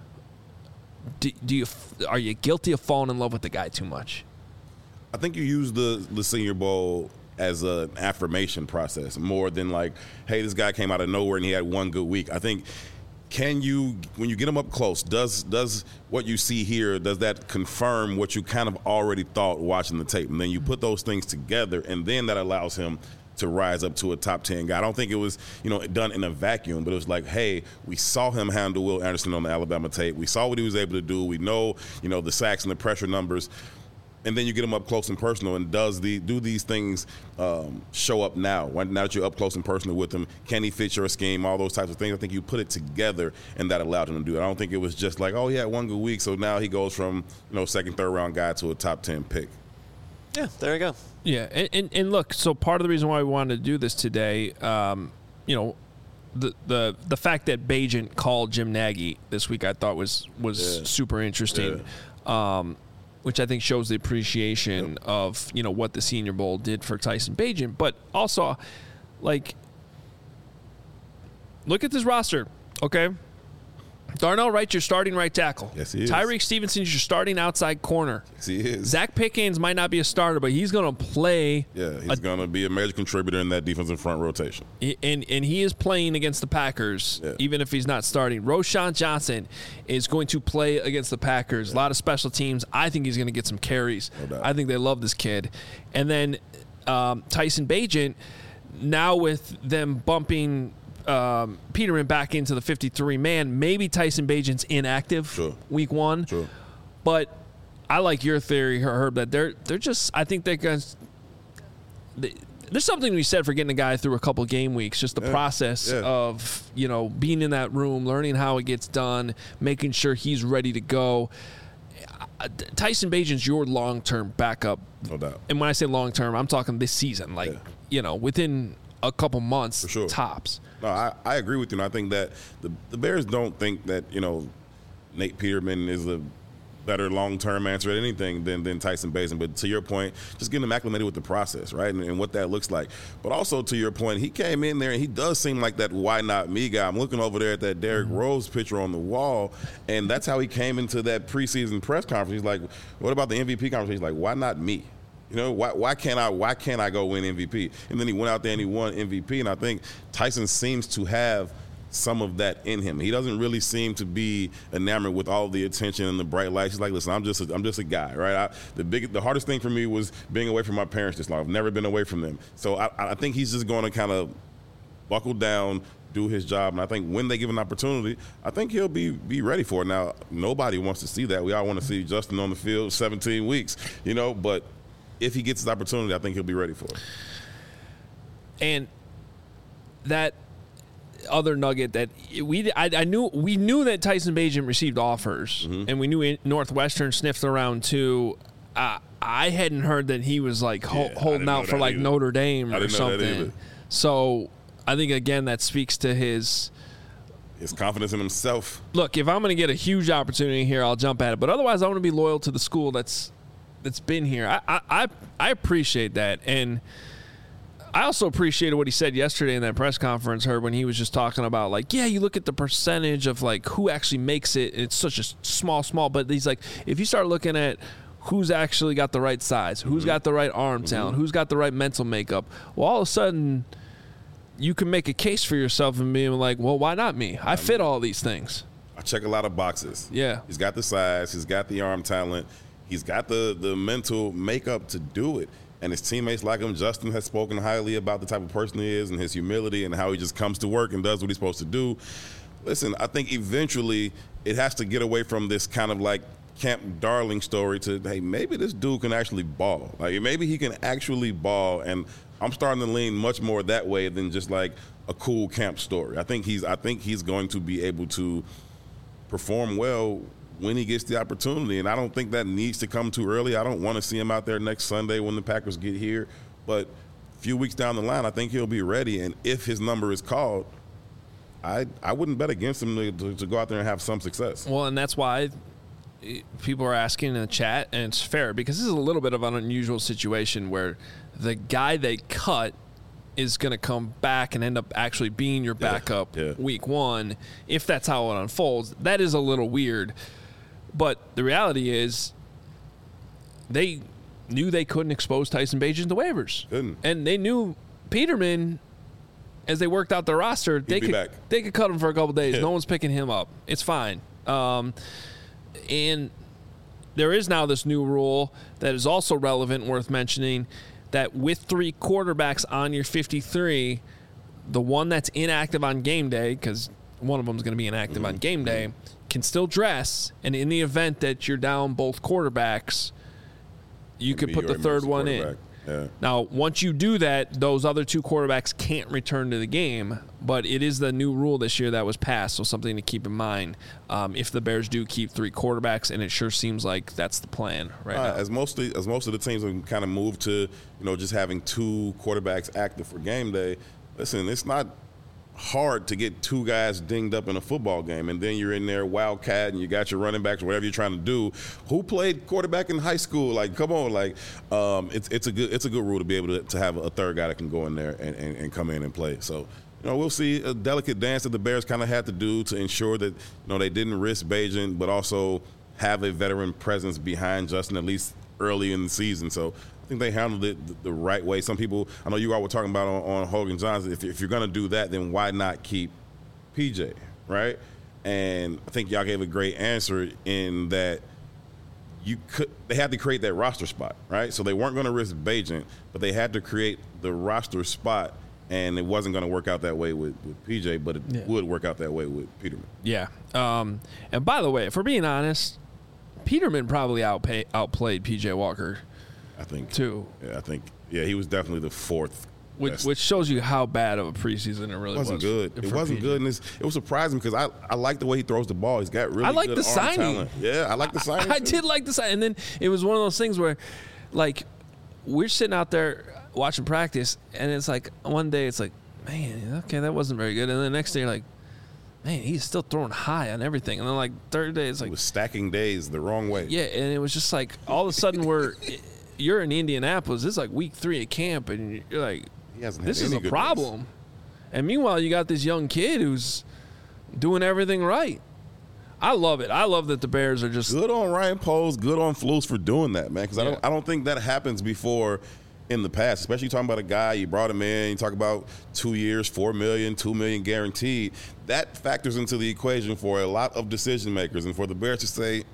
Are you guilty of falling in love with the guy too much? I think you use the Senior Bowl as an affirmation process more than like, hey, this guy came out of nowhere and he had one good week. I think. When you get him up close, does what you see here, does that confirm what you kind of already thought watching the tape? And then you put those things together, and then that allows him to rise up to a top 10 guy. I don't think it was, done in a vacuum, but it was like, hey, we saw him handle Will Anderson on the Alabama tape. We saw what he was able to do. We know, the sacks and the pressure numbers. And then you get him up close and personal, and do these things show up now? Now that you're up close and personal with him, can he fit your scheme? All those types of things. I think you put it together, and that allowed him to do it. I don't think it was just like, oh, he had one good week, so now he goes from second, third round guy to a top 10 pick. Yeah, there you go. Yeah, and look, so part of the reason why we wanted to do this today, the fact that Bagent called Jim Nagy this week, I thought was super interesting. Yeah. Which I think shows the appreciation of, what the Senior Bowl did for Tyson Bagent. But also, like, look at this roster, okay? Darnell Wright, your starting right tackle. Yes, he is. Tyreek Stevenson's your starting outside corner. Yes, he is. Zach Pickens might not be a starter, but he's going to play. Yeah, he's going to be a major contributor in that defensive front rotation. And he is playing against the Packers, even if he's not starting. Roschon Johnson is going to play against the Packers. A lot of special teams. I think he's going to get some carries. No doubt. I think they love this kid. And then Tyson Bagent, now with them bumping Peterman back into the 53-man. Maybe Tyson Bagent's inactive week one. Sure. But I like your theory, Herb, that they're just, I think they're going to, there's something to be said for getting a guy through a couple game weeks, just the process of, being in that room, learning how it gets done, making sure he's ready to go. Tyson Bagent's your long-term backup. No doubt. And when I say long-term, I'm talking this season, within a couple months, for sure. Tops. No, I agree with you. And I think that the Bears don't think that, Nate Peterman is a better long-term answer at anything than Tyson Bagent. But to your point, just getting him acclimated with the process, right, and what that looks like. But also to your point, he came in there and he does seem like that why not me guy. I'm looking over there at that Derrick Rose picture on the wall, and that's how he came into that preseason press conference. He's like, what about the MVP conversation? He's like, why not me? You know, why can't I go win MVP? And then he went out there and he won MVP. And I think Tyson seems to have some of that in him. He doesn't really seem to be enamored with all the attention and the bright lights. He's like, listen, I'm just a guy, right? The hardest thing for me was being away from my parents this long. I've never been away from them. So I think he's just going to kind of buckle down, do his job, and I think when they give an opportunity, I think he'll be ready for it. Now, nobody wants to see that. We all want to see Justin on the field 17 weeks, you know, but if he gets his opportunity, I think he'll be ready for it. And that other nugget that we knew that Tyson Bagent received offers, and we knew Northwestern sniffed around too. I hadn't heard that he was like holding out for like Notre Dame or something. So I think again that speaks to his confidence in himself. Look, if I'm going to get a huge opportunity here, I'll jump at it. But otherwise, I want to be loyal to the school that's been here. I appreciate that, and I also appreciated what he said yesterday in that press conference, Herb, when he was just talking about, like, yeah, you look at the percentage of, like, who actually makes it. It's such a small, but he's like, if you start looking at who's actually got the right size, who's got the right arm talent, who's got the right mental makeup, well, all of a sudden you can make a case for yourself and being like, well, why not me? I fit all these things. I check a lot of boxes. Yeah. He's got the size. He's got the arm talent. He's got the mental makeup to do it. And his teammates like him. Justin has spoken highly about the type of person he is and his humility and how he just comes to work and does what he's supposed to do. Listen, I think eventually it has to get away from this kind of like Camp Darling story to, hey, maybe this dude can actually ball. Like, maybe he can actually ball. And I'm starting to lean much more that way than just like a cool camp story. I think he's going to be able to perform well when he gets the opportunity, and I don't think that needs to come too early. I don't want to see him out there next Sunday when the Packers get here, but a few weeks down the line, I think he'll be ready, and if his number is called, I wouldn't bet against him to go out there and have some success. Well, and that's why people are asking in the chat, and it's fair, because this is a little bit of an unusual situation where the guy they cut is going to come back and end up actually being your backup week one, if that's how it unfolds. That is a little weird. But the reality is they knew they couldn't expose Tyson Bagent to waivers. Couldn't. And they knew Peterman, as they worked out the roster, they could cut him for a couple days. No one's picking him up. It's fine. And there is now this new rule that is also relevant, worth mentioning, that with 3 quarterbacks on your 53, the one that's inactive on game day, because one of them is going to be inactive on game day, can still dress, and in the event that you're down both quarterbacks, you could put the third one in. Yeah. Now, once you do that, those other 2 quarterbacks can't return to the game, but it is the new rule this year that was passed, so something to keep in mind if the Bears do keep 3 quarterbacks, and it sure seems like that's the plan right now. As most of the teams have kind of moved to, just having 2 quarterbacks active for game day, listen, it's not hard to get 2 guys dinged up in a football game, and then you're in there wildcat and you got your running backs, whatever you're trying to do. Who played quarterback in high school? Like, come on, like it's a good rule to be able to have a third guy that can go in there and come in and play. So we'll see a delicate dance that the Bears kind of had to do to ensure that they didn't risk Bagent, but also have a veteran presence behind Justin at least early in the season. So I think they handled it the right way. Some people, I know you all were talking about on Hogan Johnson, if you're going to do that, then why not keep PJ, right? And I think y'all gave a great answer in that they had to create that roster spot, right? So they weren't going to risk Bagent, but they had to create the roster spot, and it wasn't going to work out that way with PJ, but it would work out that way with Peterman. Yeah. And by the way, if we're being honest, Peterman probably outplayed PJ Walker. I think too. Yeah, he was definitely the 4th. Which shows you how bad of a preseason it really was. It wasn't good. It wasn't good, and it was surprising because I like the way he throws the ball. He's got really good arm signing. Talent. Yeah, I like the signing. I did like the signing. And then it was one of those things where, like, we're sitting out there watching practice, and it's like one day it's like, man, okay, that wasn't very good. And then the next day you're like, man, he's still throwing high on everything. And then, like, third day it's like. It was stacking days the wrong way. Yeah, and it was just like all of a sudden you're in Indianapolis. It's like week 3 at camp, and you're like, this is a problem. Days. And meanwhile, you got this young kid who's doing everything right. I love it. I love that the Bears are just good on Ryan Poles, good on Flus for doing that, man. Because I don't think that happens before in the past. Especially talking about a guy, you brought him in, you talk about 2 years, $4 million, $2 million guaranteed. That factors into the equation for a lot of decision makers, and for the Bears to say,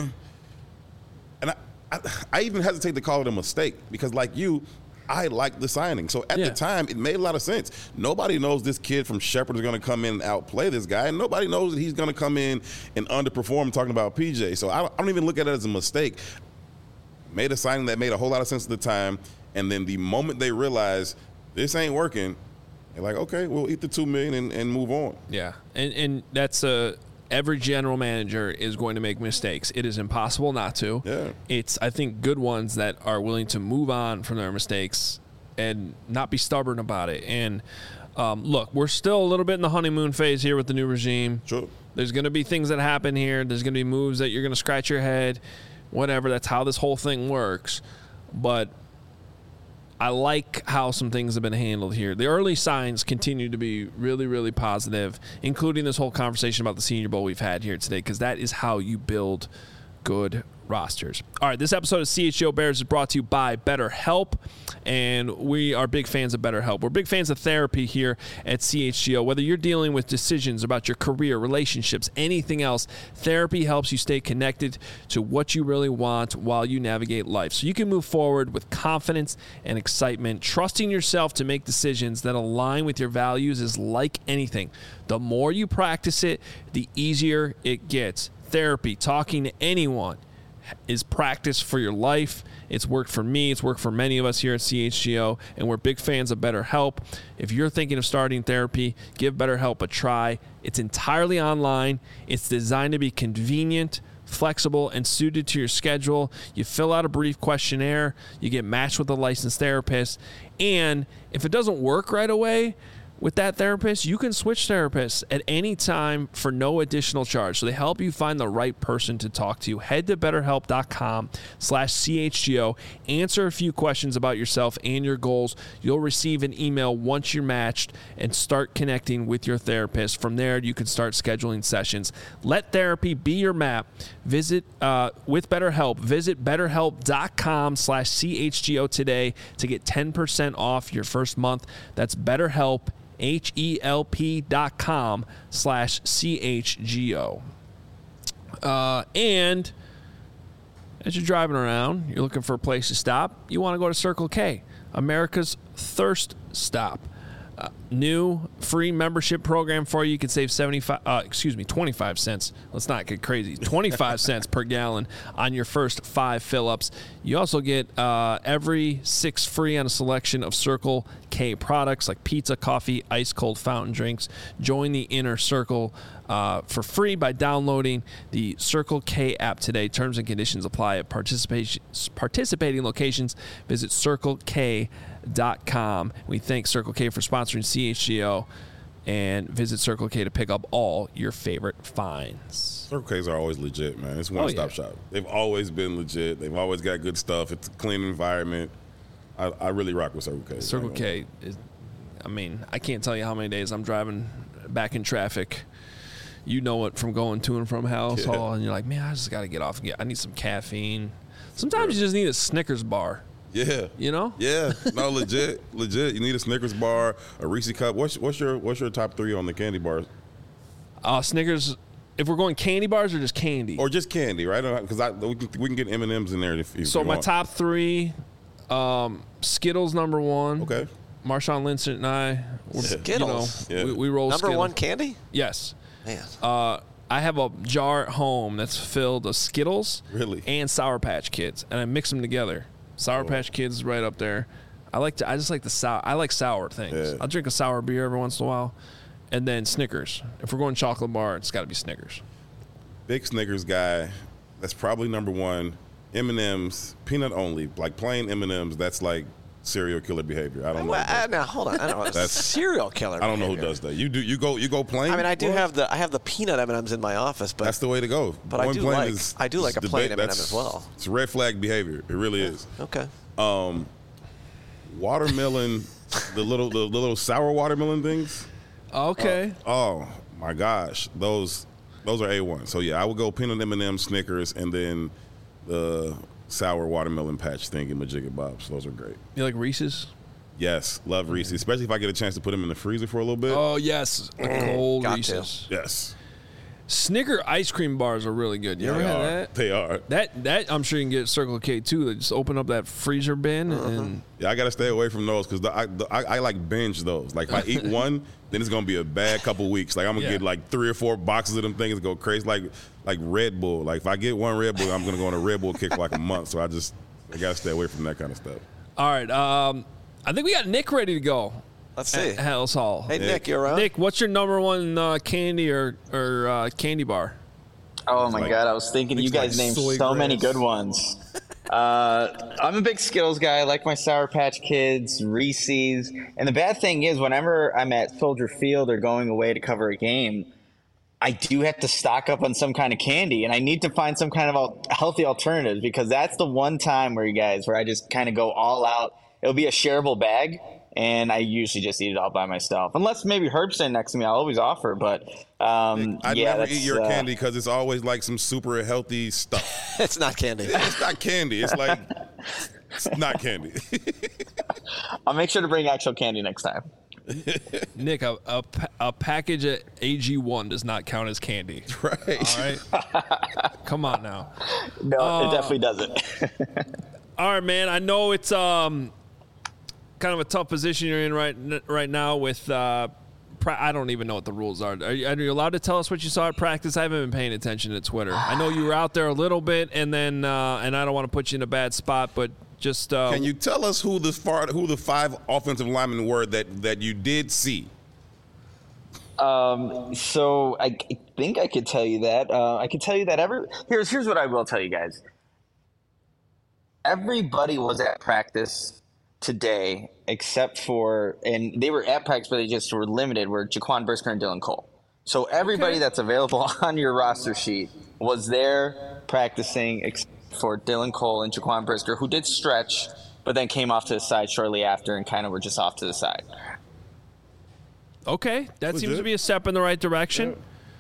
And I even hesitate to call it a mistake because, like you, I like the signing. So at the time, it made a lot of sense. Nobody knows this kid from Shepherd is going to come in and outplay this guy, and nobody knows that he's going to come in and underperform, talking about PJ. So I don't even look at it as a mistake. Made a signing that made a whole lot of sense at the time, and then the moment they realize this ain't working, they're like, okay, we'll eat the $2 million and move on. Yeah, and that's every general manager is going to make mistakes. It is impossible not to. Yeah. It's, I think, good ones that are willing to move on from their mistakes and not be stubborn about it. And look, we're still a little bit in the honeymoon phase here with the new regime. Sure. There's going to be things that happen here. There's going to be moves that you're going to scratch your head, whatever. That's how this whole thing works. But I like how some things have been handled here. The early signs continue to be really, really positive, including this whole conversation about the Senior Bowl we've had here today, because that is how you build good rosters. All right, this episode of CHGO Bears is brought to you by BetterHelp, and we are big fans of BetterHelp. We're big fans of therapy here at CHGO. Whether you're dealing with decisions about your career, relationships, anything else, therapy helps you stay connected to what you really want while you navigate life, so you can move forward with confidence and excitement. Trusting yourself to make decisions that align with your values is like anything. The more you practice it, the easier it gets. Therapy, talking to anyone, is practice for your life. It's worked for me. It's worked for many of us here at CHGO, and we're big fans of BetterHelp. If you're thinking of starting therapy, give BetterHelp a try. It's entirely online. It's designed to be convenient, flexible, and suited to your schedule. You fill out a brief questionnaire. You get matched with a licensed therapist. And if it doesn't work right away with that therapist, you can switch therapists at any time for no additional charge. So they help you find the right person to talk to. Head to BetterHelp.com/CHGO. Answer a few questions about yourself and your goals. You'll receive an email once you're matched and start connecting with your therapist. From there, you can start scheduling sessions. Let therapy be your map. Visit with BetterHelp. Visit BetterHelp.com/CHGO today to get 10% off your first month. That's BetterHelp. HELP.com/CHGO. And as you're driving around, you're looking for a place to stop, you want to go to Circle K, America's thirst stop. New free membership program for you. You can save 25 cents. Let's not get crazy. 25 cents per gallon on your first 5 fill-ups. You also get every 6 free on a selection of Circle K products like pizza, coffee, ice cold fountain drinks. Join the inner circle for free by downloading the Circle K app today. Terms and conditions apply at participating locations. Visit CircleK.com. We thank Circle K for sponsoring CHGO, and visit Circle K to pick up all your favorite finds. Circle K's are always legit, man. It's one-stop shop. They've always been legit. They've always got good stuff. It's a clean environment. I really rock with Circle K. Circle K is, I mean, I can't tell you how many days I'm driving back in traffic. You know it from going to and from House Hall, and you're like, man, I just got to get off. I need some caffeine. Sometimes you just need a Snickers bar. Yeah. You know? Yeah. No, legit. You need a Snickers bar, a Reese cup. What's your top 3 on the candy bars? Snickers. If we're going candy bars or just candy? Or just candy, right? Because we can get M&Ms in there if you So my want. top 3, Skittles number 1. Okay. Marshawn Lynch and I. Skittles? We roll Number Skittles. 1 candy? Yes. Man. I have a jar at home that's filled with Skittles and Sour Patch Kids, and I mix them together. Sour Patch Kids is right up there. I just like the sour. I like sour things. Yeah. I'll drink a sour beer every once in a while, and then Snickers. If we're going chocolate bar, it's got to be Snickers. Big Snickers guy. That's probably number 1. M&Ms, peanut only, like plain M&Ms. That's like serial killer behavior. I don't know. Now hold on. I don't know. That's serial killer. I don't know who does that. You go plain. I mean, I have the peanut M&Ms in my office, but that's the way to go. But I do like a plain M&M as well. It's red flag behavior. It really is. Okay. Watermelon, the little sour watermelon things. Okay. Oh my gosh, those Those are A1. So yeah, I would go peanut M&M, Snickers, and then the sour watermelon patch thingy, Majigga Bobs. Those are great. You like Reese's? Yes, love Reese's, especially if I get a chance to put them in the freezer for a little bit. Oh yes, cold Got Reese's. to. Yes. Snicker ice cream bars are really good. You ever had that? They are. That I'm sure you can get at Circle K too. They just open up that freezer bin and Yeah, I got to stay away from those because I like binge those. Like if I eat one, then it's going to be a bad couple weeks. Like I'm going to get like 3 or 4 boxes of them things and go crazy. Like Red Bull. Like if I get one Red Bull, I'm going to go on a Red Bull kick for like a month. So I got to stay away from that kind of stuff. All right. I think we got Nick ready to go. Let's see. At Hallis Hall. Hey, Nick, you around? Nick, what's your number one candy or candy bar? Oh my like- God! I was thinking you guys named soy so many grass. good ones. I'm a big Skittles guy. I like my Sour Patch Kids, Reese's, and the bad thing is, whenever I'm at Soldier Field or going away to cover a game, I do have to stock up on some kind of candy, and I need to find some kind of healthy alternatives because that's the one time where I just kind of go all out. It'll be a shareable bag, and I usually just eat it all by myself. Unless maybe Herb's sitting next to me, I'll always offer. But I yeah, never that's, eat your candy because it's always like some super healthy stuff. It's not candy. It's not candy. It's like it's not candy. I'll make sure to bring actual candy next time. Nick, a package at AG1 does not count as candy. Right. All right. Come on now. No, it definitely doesn't. All right, man. I know it's kind of a tough position you're in right now with. I don't even know what the rules are. Are you allowed to tell us what you saw at practice? I haven't been paying attention to Twitter. I know you were out there a little bit, and then and I don't want to put you in a bad spot, but just Can you tell us who the 5 offensive linemen were that you did see? So I think I could tell you that. I could tell you that here's what I will tell you guys. Everybody was at practice today except for, and they were at practice, but they just were limited, were Jaquan Brisker and Dylan Cole. So everybody that's available on your roster sheet was there practicing except for Dylan Cole and Jaquan Brisker, who did stretch, but then came off to the side shortly after and kind of were just off to the side. Okay, that seems Legit. to be a step in the right direction.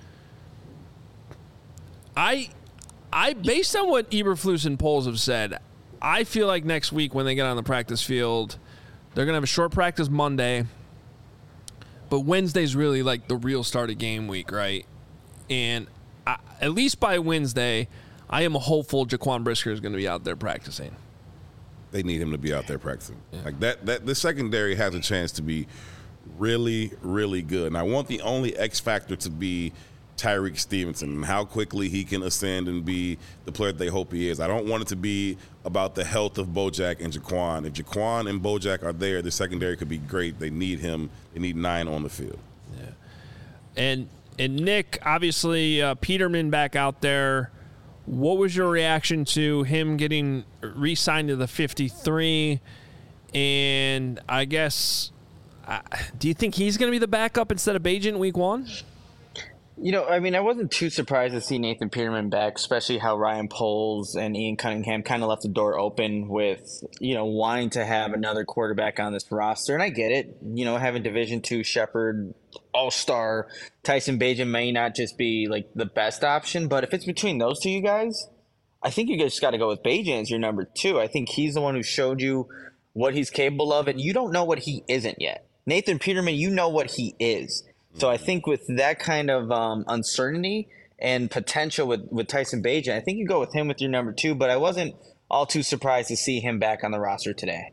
I based on what Eberflus and Poles have said, I feel like next week when they get on the practice field, they're going to have a short practice Monday, but Wednesday's really like the real start of game week, right? And at least by Wednesday, I am hopeful Jaquan Brisker is going to be out there practicing. They need him to be out there practicing. Like that the secondary has a chance to be really, really good. And I want the only X factor to be Tyreek Stevenson and how quickly he can ascend and be the player that they hope he is. I don't want it to be about the health of Bojack and Jaquan. If Jaquan and Bojack are there, the secondary could be great. They need him. They need 9 on the field. Yeah. And Nick, obviously, Peterman back out there. What was your reaction to him getting re-signed to the 53? And I guess, do you think he's going to be the backup instead of Bagent week 1? You know, I mean, I wasn't too surprised to see Nathan Peterman back, especially how Ryan Poles and Ian Cunningham kind of left the door open with, wanting to have another quarterback on this roster. And I get it, having Division II Shepherd, all-star Tyson Bagent may not just be like the best option, but if it's between those two you guys, I think you guys got to go with Bagent as your number 2. I think he's the one who showed you what he's capable of, and you don't know what he isn't yet. Nathan Peterman, you know what he is. So I think with that kind of uncertainty and potential with Tyson Bagent, I think you go with him with your number 2, but I wasn't all too surprised to see him back on the roster today.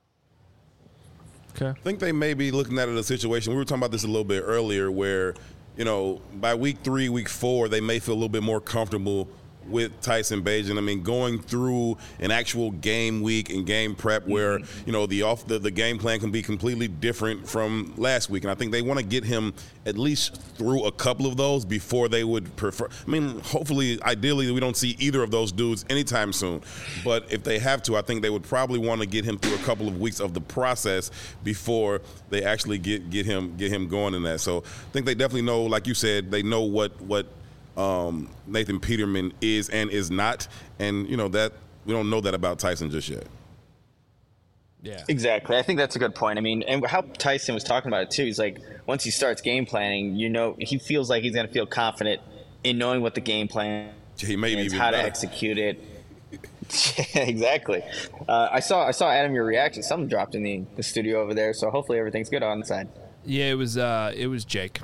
Okay. I think they may be looking at it a situation. We were talking about this a little bit earlier where, by week 3, week 4, they may feel a little bit more comfortable with Tyson Bagent. I mean, going through an actual game week and game prep where, the game plan can be completely different from last week. And I think they want to get him at least through a couple of those before they would prefer. I mean, hopefully, ideally, we don't see either of those dudes anytime soon. But if they have to, I think they would probably want to get him through a couple of weeks of the process before they actually get him going in that. So I think they definitely know, like you said, they know what Nathan Peterman is and is not, and that we don't know that about Tyson just yet. Yeah, exactly. I think that's a good point. I mean, and how Tyson was talking about it too. He's like, once he starts game planning, he feels like he's going to feel confident in knowing what the game plan is, how to execute it. Exactly. I saw Adam, your reaction. Something dropped in the studio over there, so hopefully everything's good on the side. Yeah, it was Jake.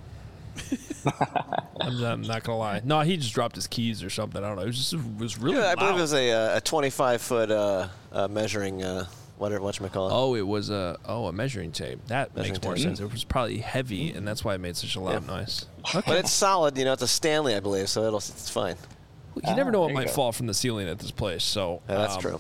I'm not gonna lie. No, he just dropped his keys or something. I don't know. It was really loud. I believe it was a 25-foot measuring. Whatchamacallit? Oh, it was a measuring tape. That makes more sense. It was probably heavy, and that's why it made such a loud noise. Okay. But it's solid. It's a Stanley, I believe, so it's fine. You never know what might fall from the ceiling at this place. So that's true.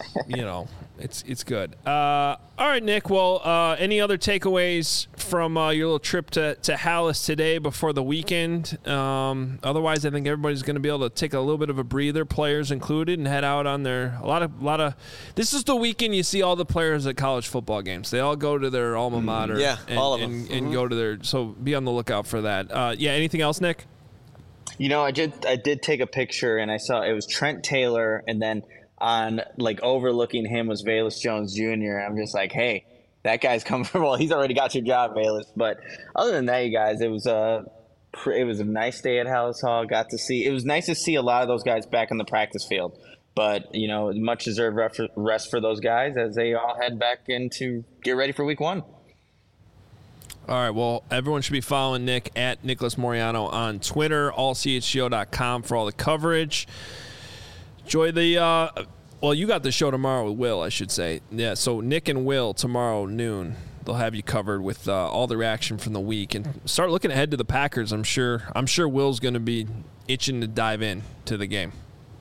It's good. All right, Nick. Well, any other takeaways from your little trip to Halas today before the weekend? Otherwise, I think everybody's going to be able to take a little bit of a breather, players included, and head out on their a lot of. This is the weekend you see all the players at college football games. They all go to their alma mater. Yeah, all of them. And go to their. So be on the lookout for that. Anything else, Nick? I did take a picture, and I saw it was Trent Taylor, and then on overlooking him was Velus Jones Jr. I'm just like, hey, that guy's coming from. Well, he's already got your job, Velus. But other than that, you guys, it was a nice day at Halas Hall. It was nice to see a lot of those guys back on the practice field. But much deserved rest for those guys as they all head back in to get ready for week 1. All right, well, everyone should be following Nick at Nicholas Moriano on Twitter, allchgo.com for all the coverage. Enjoy the you got the show tomorrow with Will, I should say. Yeah, so Nick and Will tomorrow noon. They'll have you covered with all the reaction from the week. And start looking ahead to the Packers, I'm sure Will's going to be itching to dive in to the game.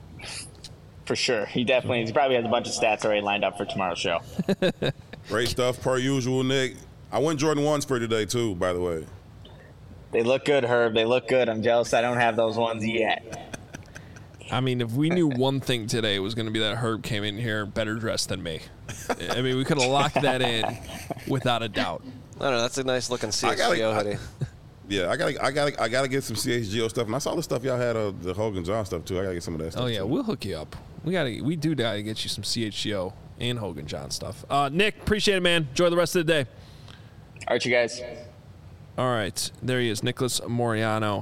For sure. He probably has a bunch of stats already lined up for tomorrow's show. Great stuff per usual, Nick. I went Jordan 1s for today, too, by the way. They look good, Herb. They look good. I'm jealous I don't have those ones yet. I mean, if we knew one thing today, it was going to be that Herb came in here better dressed than me. I mean, we could have locked that in without a doubt. I don't know. That's a nice looking CHGO hoodie. Yeah, I gotta get some CHGO stuff, and I saw the stuff y'all had, the Hogan John stuff too. I gotta get some of that stuff. Oh yeah, too. We'll hook you up. We gotta get you some CHGO and Hogan John stuff. Nick, appreciate it, man. Enjoy the rest of the day. All right, you guys. All right, there he is, Nicholas Moriano.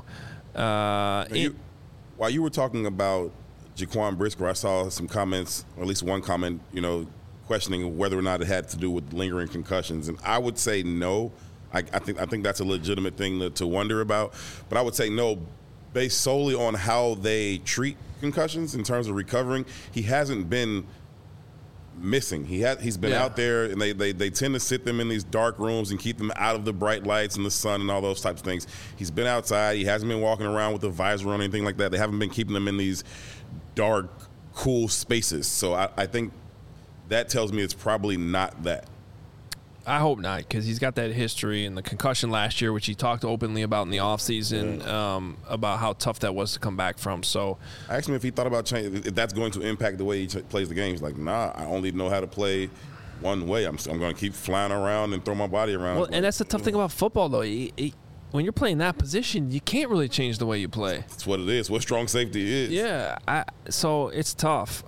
While you were talking about Jaquan Brisker, I saw some comments, or at least one comment, questioning whether or not it had to do with lingering concussions, and I would say no. I think that's a legitimate thing to wonder about, but I would say no, based solely on how they treat concussions in terms of recovering. He hasn't been missing. He's been out there, and they tend to sit them in these dark rooms and keep them out of the bright lights and the sun and all those types of things. He's been outside. He hasn't been walking around with a visor on or anything like that. They haven't been keeping them in these dark, cool spaces. So I think that tells me it's probably not that. I hope not, because he's got that history and the concussion last year, which he talked openly about in the offseason, about how tough that was to come back from. So I asked him if he thought about changing, if that's going to impact the way he plays the game. He's like, nah, I only know how to play one way. I'm going to keep flying around and throw my body around. Well, and that's the tough thing about football, though. When you're playing that position, you can't really change the way you play. That's what it is. What strong safety is. Yeah, so it's tough.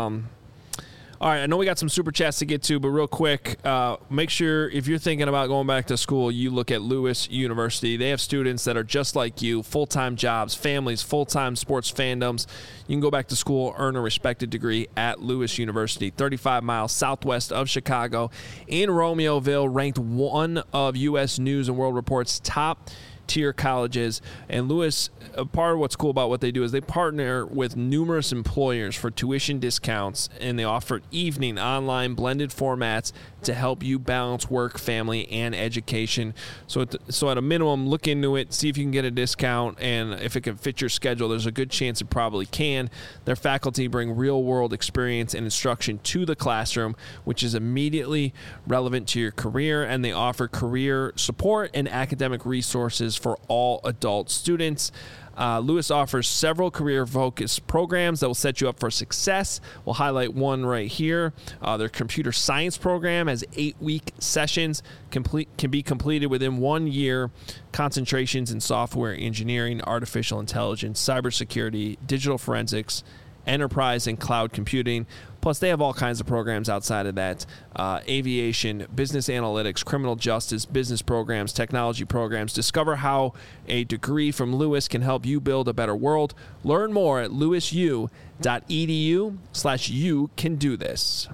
All right, I know we got some super chats to get to, but real quick, make sure if you're thinking about going back to school, you look at Lewis University. They have students that are just like you, full-time jobs, families, full-time sports fandoms. You can go back to school, earn a respected degree at Lewis University, 35 miles southwest of Chicago in Romeoville, ranked one of U.S. News and World Report's top tier colleges. And Lewis, part of what's cool about what they do is they partner with numerous employers for tuition discounts, and they offer evening, online, blended formats to help you balance work, family, and education. So at a minimum, look into it, see if you can get a discount, and if it can fit your schedule, there's a good chance it probably can. Their faculty bring real-world experience and instruction to the classroom, which is immediately relevant to your career, and they offer career support and academic resources for all adult students. Lewis offers several career-focused programs that will set you up for success. We'll highlight one right here. Their computer science program has 8-week sessions, can be completed within 1 year. Concentrations in software engineering, artificial intelligence, cybersecurity, digital forensics, enterprise and cloud computing. Plus, they have all kinds of programs outside of that. Aviation, business analytics, criminal justice, business programs, technology programs. Discover how a degree from Lewis can help you build a better world. Learn more at lewisu.edu/you can do this.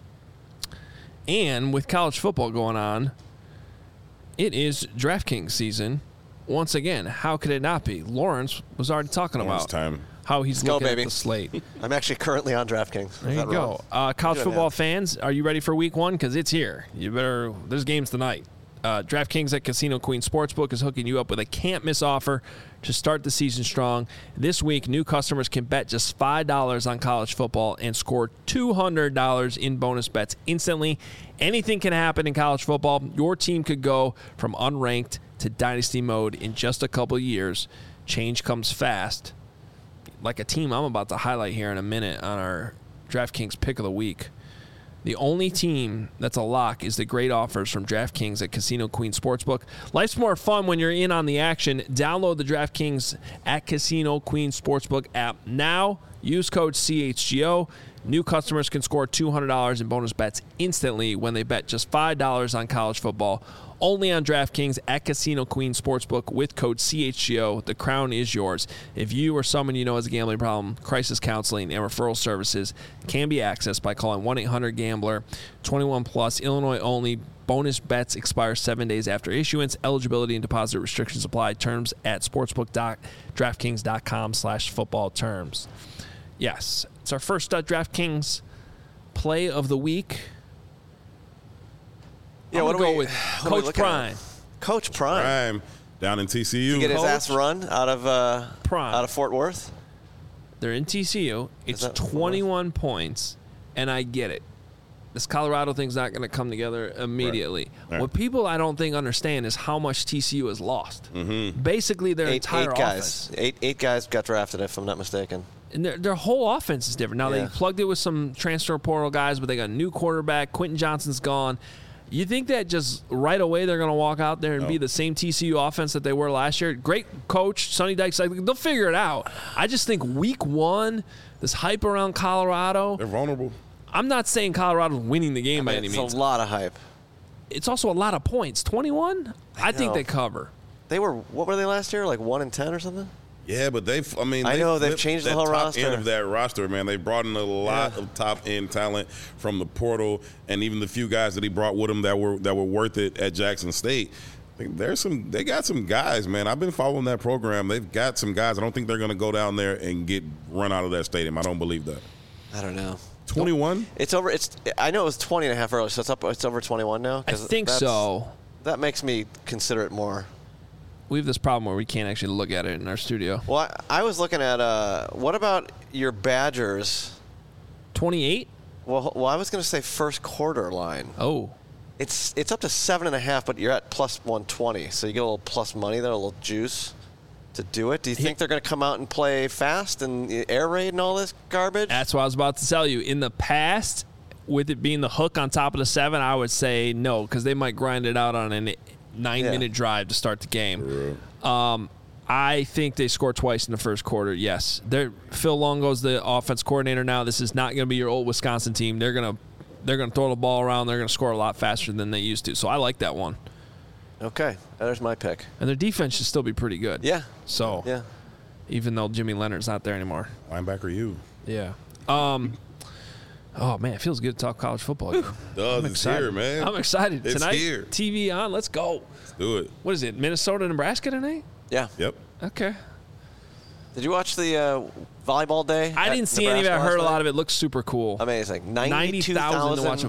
And with college football going on, it is DraftKings season. Once again, how could it not be? Lawrence was already talking about how he's looking at the slate. I'm actually currently on DraftKings. There you go. College football fans, are you ready for week one? Because it's here. There's games tonight. DraftKings at Casino Queen Sportsbook is hooking you up with a can't-miss offer to start the season strong. This week, new customers can bet just $5 on college football and score $200 in bonus bets instantly. Anything can happen in college football. Your team could go from unranked to dynasty mode in just a couple of years. Change comes fast. Like a team I'm about to highlight here in a minute on our DraftKings pick of the week. The only team that's a lock is the great offers from DraftKings at Casino Queen Sportsbook. Life's more fun when you're in on the action. Download the DraftKings at Casino Queen Sportsbook app now. Use code CHGO. New customers can score $200 in bonus bets instantly when they bet just $5 on college football. Only on DraftKings at Casino Queen Sportsbook with code CHGO. The crown is yours. If you or someone you know has a gambling problem, crisis counseling and referral services can be accessed by calling 1-800-GAMBLER. 21 plus, Illinois only. Bonus bets expire 7 days after issuance. Eligibility and deposit restrictions apply. Terms at sportsbook.draftkings.com/football terms. Yes, it's our first DraftKings play of the week. Yeah, what do we go with Coach Prime? Coach Prime down in TCU. To get his ass run out of Fort Worth. They're in TCU. It's 21 points, and I get it. This Colorado thing's not going to come together immediately. Right. What people I don't think understand is how much TCU has lost. Mm-hmm. Basically, their entire offense. Eight guys got drafted, if I'm not mistaken. And their whole offense is different. Now, they plugged it with some transfer portal guys, but they got a new quarterback. Quentin Johnson's gone. You think that just right away they're going to walk out there and be the same TCU offense that they were last year? Great coach, Sonny Dykes, they'll figure it out. I just think week one, this hype around Colorado. They're vulnerable. I'm not saying Colorado's winning the game by any means. It's a lot of hype. It's also a lot of points. 21? I think they cover. What were they last year? Like 1-10 or something? Yeah, but they've changed the whole roster. End of that roster, man. They brought in a lot of top end talent from the portal, and even the few guys that he brought with him that were worth it at Jackson State. I think they got some guys, man. I've been following that program. They've got some guys. I don't think they're going to go down there and get run out of that stadium. I don't believe that. I don't know. 21? It's over. I know it was 20.5 earlier, so it's over 21 now. I think so. That makes me consider it more. We have this problem where we can't actually look at it in our studio. Well, I was looking at what about your Badgers? 28? Well, I was going to say first quarter line. Oh. It's up to 7.5, but you're at plus 120, so you get a little plus money there, a little juice to do it. Do you think they're going to come out and play fast and air raid and all this garbage? That's what I was about to tell you. In the past, with it being the hook on top of the 7, I would say no, because they might grind it out on a 9-minute drive to start the game. I think they score twice in the first quarter. Yes, Phil Longo's the offense coordinator now. This is not going to be your old Wisconsin team. They're going to throw the ball around. They're going to score a lot faster than they used to. So I like that one. Okay, there's my pick. And their defense should still be pretty good. Yeah. So even though Jimmy Leonard's not there anymore. Linebacker you. Yeah. Oh, man, it feels good to talk college football. It's here, man. I'm excited. It's tonight, here. TV on. Let's go. Let's do it. What is it, Minnesota, Nebraska tonight? Yeah. Yep. Okay. Did you watch the volleyball day? I didn't see any of it. I heard a lot of it. Looks super cool. Amazing. 90,000 to watch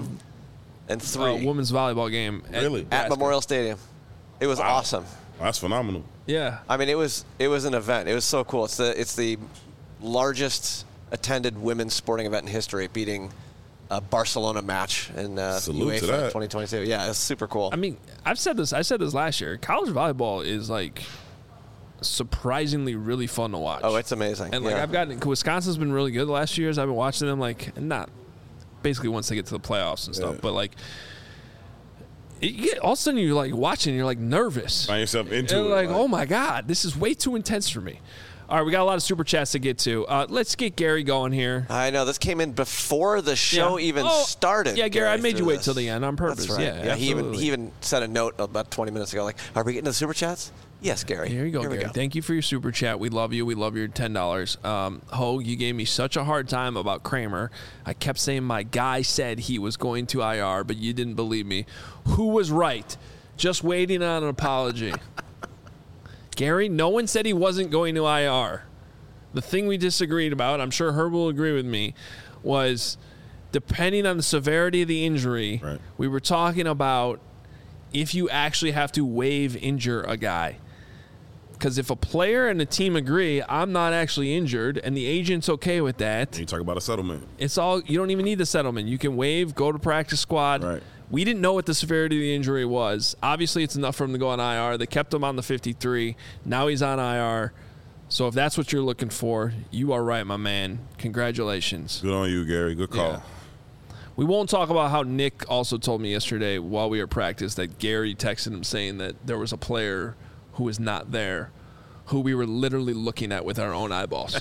a women's volleyball game. Really? At Memorial Stadium. It was awesome. That's phenomenal. Yeah. I mean, it was an event. It was so cool. It's the largest attended women's sporting event in history, beating a Barcelona match in UEFA 2022. Yeah, it's super cool. I mean, I said this last year. College volleyball is like surprisingly really fun to watch. Oh, it's amazing. And Wisconsin's been really good the last few years. I've been watching them not basically once they get to the playoffs and stuff, but all of a sudden you're watching, you're nervous. Find yourself into and it. oh my God, this is way too intense for me. All right, we got a lot of super chats to get to. Let's get Gary going here. I know. This came in before the show even started. Yeah, Gary, I made you wait till the end on purpose. That's right. Yeah, he even sent a note about 20 minutes ago, like, are we getting to the super chats? Yes, Gary. Here you go, Gary. Thank you for your super chat. We love you. We love your $10. Hogue, you gave me such a hard time about Kramer. I kept saying my guy said he was going to IR, but you didn't believe me. Who was right? Just waiting on an apology. Gary, no one said he wasn't going to IR. The thing we disagreed about, I'm sure Herb will agree with me, was depending on the severity of the injury, we were talking about if you actually have to waive injure a guy. Because if a player and the team agree, I'm not actually injured, and the agent's okay with that. And you talk about a settlement. It's all, you don't even need the settlement. You can waive, go to practice squad. Right. We didn't know what the severity of the injury was. Obviously, it's enough for him to go on IR. They kept him on the 53. Now he's on IR. So if that's what you're looking for, you are right, my man. Congratulations. Good on you, Gary. Good call. Yeah. We won't talk about how Nick also told me yesterday while we were at practice that Gary texted him saying that there was a player who was not there, who we were literally looking at with our own eyeballs.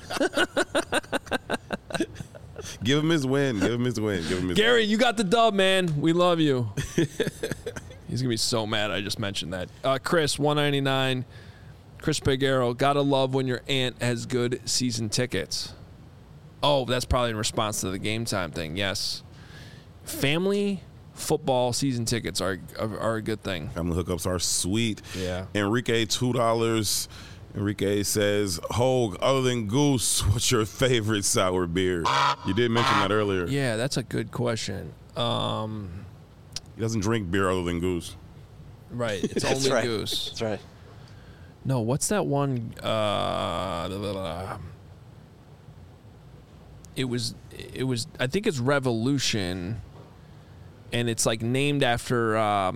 Give him his win. Give him his win. Give him his Gary, win. you got the dub, man. We love you. He's going to be so mad I just mentioned that. Chris, $1.99. Chris Pagero, gotta love when your aunt has good season tickets. Oh, that's probably in response to the Game Time thing. Yes. Family football season tickets are a good thing. Family hookups are sweet. Yeah. Enrique, $2. Enrique says, Hogue, other than Goose, what's your favorite sour beer? You did mention that earlier. Yeah, that's a good question. He doesn't drink beer other than Goose. Right. It's only right. Goose. That's right. No, what's that one? It was. I think it's Revolution, and it's like named after.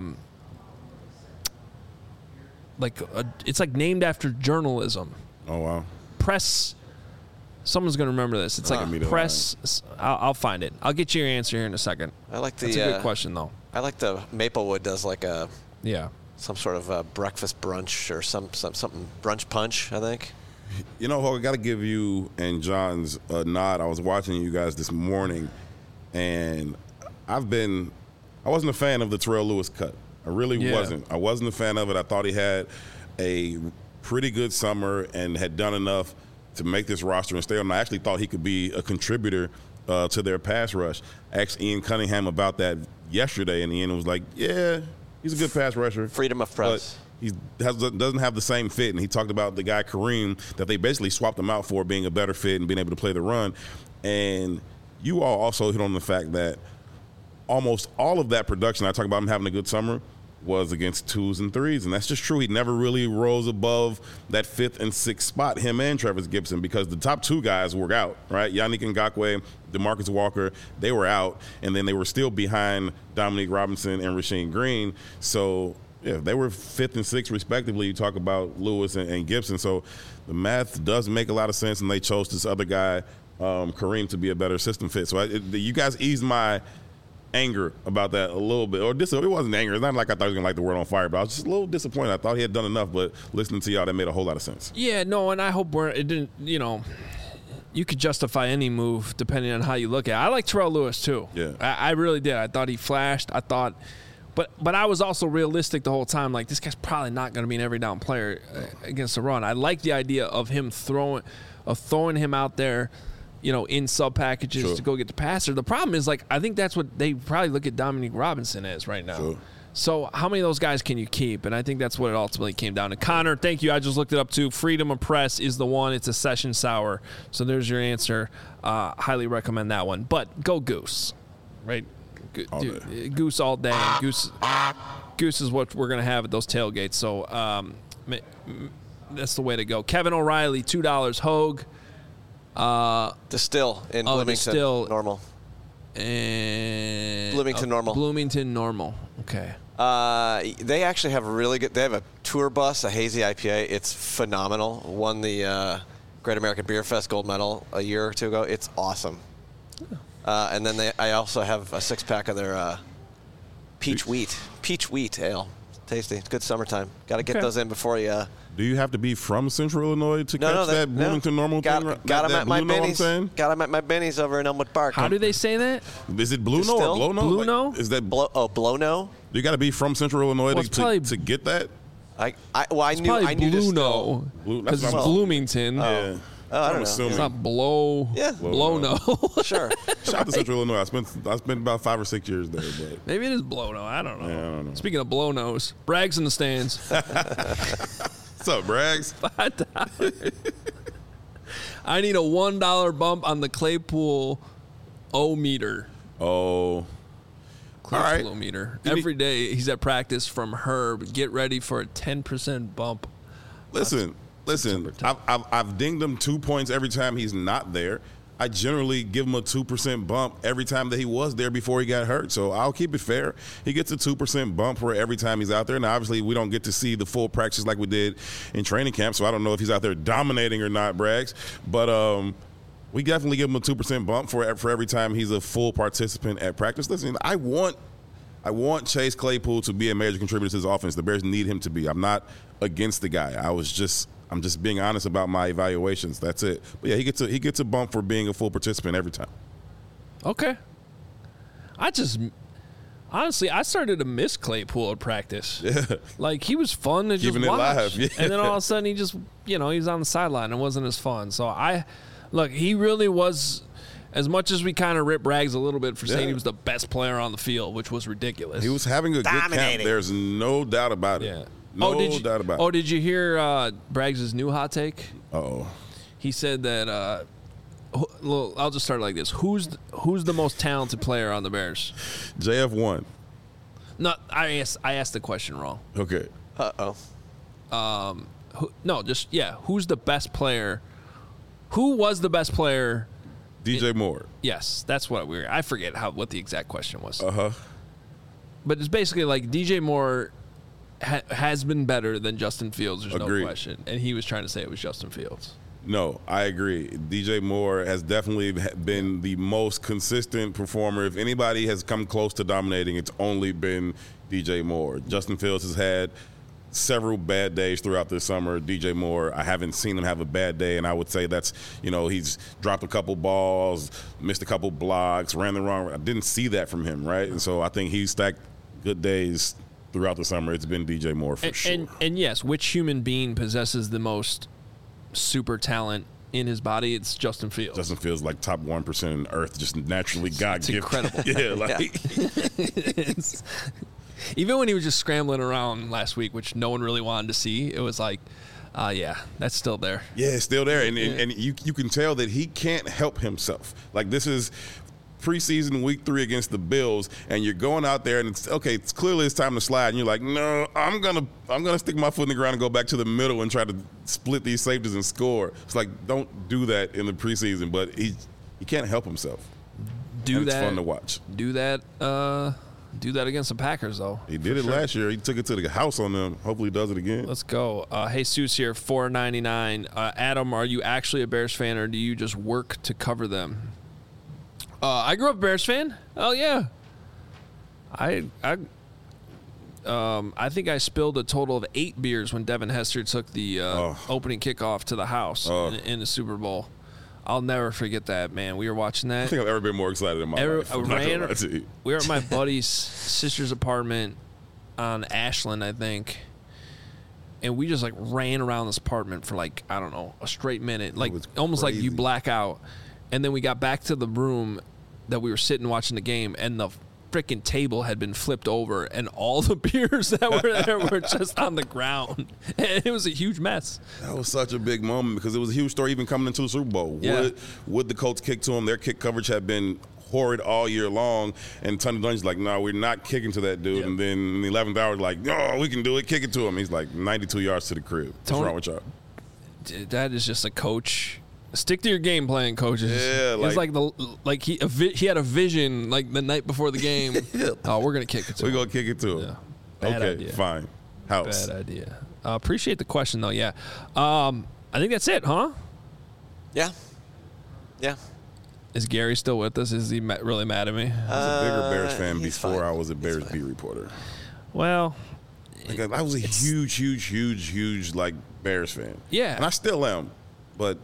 It's like named after journalism. Oh wow. Press. Someone's gonna remember this. It's like press. I'll find it. I'll get you your answer here in a second. I like the. That's a good question though. I like the Maplewood does like a. Yeah. Some sort of breakfast brunch or something brunch punch, I think. You know, Hogue, I got to give you and John's a nod. I was watching you guys this morning, and I wasn't a fan of the Terrell Lewis cut. I really wasn't. I wasn't a fan of it. I thought he had a pretty good summer and had done enough to make this roster and stay on. I actually thought he could be a contributor to their pass rush. I asked Ian Cunningham about that yesterday, and Ian was like, yeah, he's a good pass rusher. Freedom of press. He doesn't have the same fit, and he talked about the guy Kareem that they basically swapped him out for being a better fit and being able to play the run. And you all also hit on the fact that almost all of that production, I talk about him having a good summer, was against 2s and 3s, and that's just true. He never really rose above that 5th and 6th spot, him and Travis Gibson, because the top 2 guys were out, right? Yannick Ngakoue, DeMarcus Walker, they were out, and then they were still behind Dominique Robinson and Rasheem Green. So, yeah, they were 5th and 6th respectively. You talk about Lewis and Gibson. So the math does make a lot of sense, and they chose this other guy, Kareem, to be a better system fit. So you guys eased my anger about that a little bit. Or it wasn't anger. It's not like I thought he was going to light the world on fire, but I was just a little disappointed. I thought he had done enough, but listening to y'all, that made a whole lot of sense. Yeah, no, and I hope it didn't, you could justify any move depending on how you look at it. I like Terrell Lewis, too. Yeah. I really did. I thought he flashed. But I was also realistic the whole time. Like, this guy's probably not going to be an every down player against the run. I like the idea of him throwing him out there, in sub packages to go get the passer. The problem is, like, I think that's what they probably look at Dominique Robinson as right now. Sure. So how many of those guys can you keep? And I think that's what it ultimately came down to. Connor, thank you. I just looked it up too. Freedom of Press is the one. It's a session sour. So there's your answer. Highly recommend that one. But go Goose, right? Goose all day. Goose is what we're going to have at those tailgates. So that's the way to go. Kevin O'Reilly, $2. Hogue. Distill in Bloomington. Normal. And Bloomington Normal. Bloomington Normal. Okay. They actually have they have a tour bus, a hazy IPA. It's phenomenal. Won the Great American Beer Fest gold medal a year or two ago. It's awesome. And then I also have a 6-pack of their peach wheat ale. Tasty. It's good summertime. Got to get those in before you. Do you have to be from Central Illinois to catch that Bloomington normal thing? Got them at my Benny's. Got them at my Benny's over in Elmwood Park. How do they say that? Is it Blue No or Blow No? Blue No? Is that Blow No? You got to be from Central Illinois to get that. I knew Blue No because it's Bloomington. Yeah. I don't know. It's not Blow. Yeah. Blow No. Sure. Shout out to Central Illinois. I spent about 5 or 6 years there. But maybe it is Blow No. I don't know. Yeah, I don't know. Speaking of Blow Nos, Braggs in the stands. What's up, Braggs? $5. I need a $1 bump on the Claypool O-meter. Oh. Claypool O-meter. Every day he's at practice from Herb. Get ready for a 10% bump. Listen. I've dinged him 2 points every time he's not there. I generally give him a 2% bump every time that he was there before he got hurt. So I'll keep it fair. He gets a 2% bump for every time he's out there. And obviously we don't get to see the full practice like we did in training camp. So I don't know if he's out there dominating or not, Braggs. But we definitely give him a 2% bump for every time he's a full participant at practice. Listen, I want Chase Claypool to be a major contributor to this offense. The Bears need him to be. I'm not against the guy. I'm just being honest about my evaluations. That's it. But yeah, he gets a bump for being a full participant every time. Okay. Honestly, I started to miss Claypool at practice. Yeah. Like, he was fun to just watch. Live. Yeah. And then all of a sudden he just, he was on the sideline. It wasn't as fun. So he really was, as much as we kind of ripped Braggs a little bit for saying he was the best player on the field, which was ridiculous. He was having a good camp. There's no doubt about it. Yeah. No doubt about it. Oh, did you hear Braggs' new hot take? Uh-oh. He said that, I'll just start like this. Who's the most talented player on the Bears? JF1. No, I asked the question wrong. Okay. Uh-oh. Who's the best player? Who was the best player? DJ Moore. Yes, that's what I forget what the exact question was. Uh-huh. But it's basically like DJ Moore has been better than Justin Fields. There's Agreed. No question. And he was trying to say it was Justin Fields. No, I agree. DJ Moore has definitely been the most consistent performer. If anybody has come close to dominating, it's only been DJ Moore. Justin Fields has had several bad days throughout this summer. DJ Moore, I haven't seen him have a bad day, and I would say that's, he's dropped a couple balls, missed a couple blocks, ran the wrong way. I didn't see that from him, right? And so I think he's stacked good days throughout the summer. It's been DJ Moore for sure. And yes, which human being possesses the most super talent in his body? It's Justin Fields. Justin Fields, like top 1% in Earth, just naturally God-gifted. Incredible. Yeah, even when he was just scrambling around last week, which no one really wanted to see, it was like, that's still there. Yeah, it's still there. And you can tell that he can't help himself. Like, this is preseason week 3 against the Bills, and you're going out there, and it's clearly it's time to slide, and you're like, no, I'm gonna stick my foot in the ground and go back to the middle and try to split these safeties and score. It's like, don't do that in the preseason, but he can't help himself. It's fun to watch. Do that against the Packers, though. He did it last year. He took it to the house on them. Hopefully he does it again. Let's go. Jesus here, $4.99. Adam, are you actually a Bears fan, or do you just work to cover them? I grew up a Bears fan. Oh yeah. I think I spilled a total of 8 beers when Devin Hester took the opening kickoff to the house in the Super Bowl. I'll never forget that, man. We were watching that. I think I've ever been more excited in my life. We were at my buddy's sister's apartment on Ashland, I think. And we just ran around this apartment for a straight minute. Almost like you black out. And then we got back to the room that we were sitting watching the game, and the freaking table had been flipped over, and all the beers that were there were just on the ground. And it was a huge mess. That was such a big moment because it was a huge story even coming into the Super Bowl. Yeah. Would the Colts kick to him? Their kick coverage had been horrid all year long, and Tony Dungy's like, no, we're not kicking to that dude. Yep. And then in the 11th hour, like, no, we can do it, kick it to him. He's like 92 yards to the crib. What's wrong with y'all? That is just a coach. Stick to your game plan, coaches. Yeah, he had a vision the night before the game. Oh, we're gonna kick it to him. We're gonna kick it to him. Yeah. Bad idea. Fine. House. Bad idea. Appreciate the question though. Yeah. I think that's it, huh? Yeah. Yeah. Is Gary still with us? Is he really mad at me? I was a bigger Bears fan before fine. I was a Bears beat reporter. Well, Like, I was a huge like Bears fan. Yeah, and I still am, but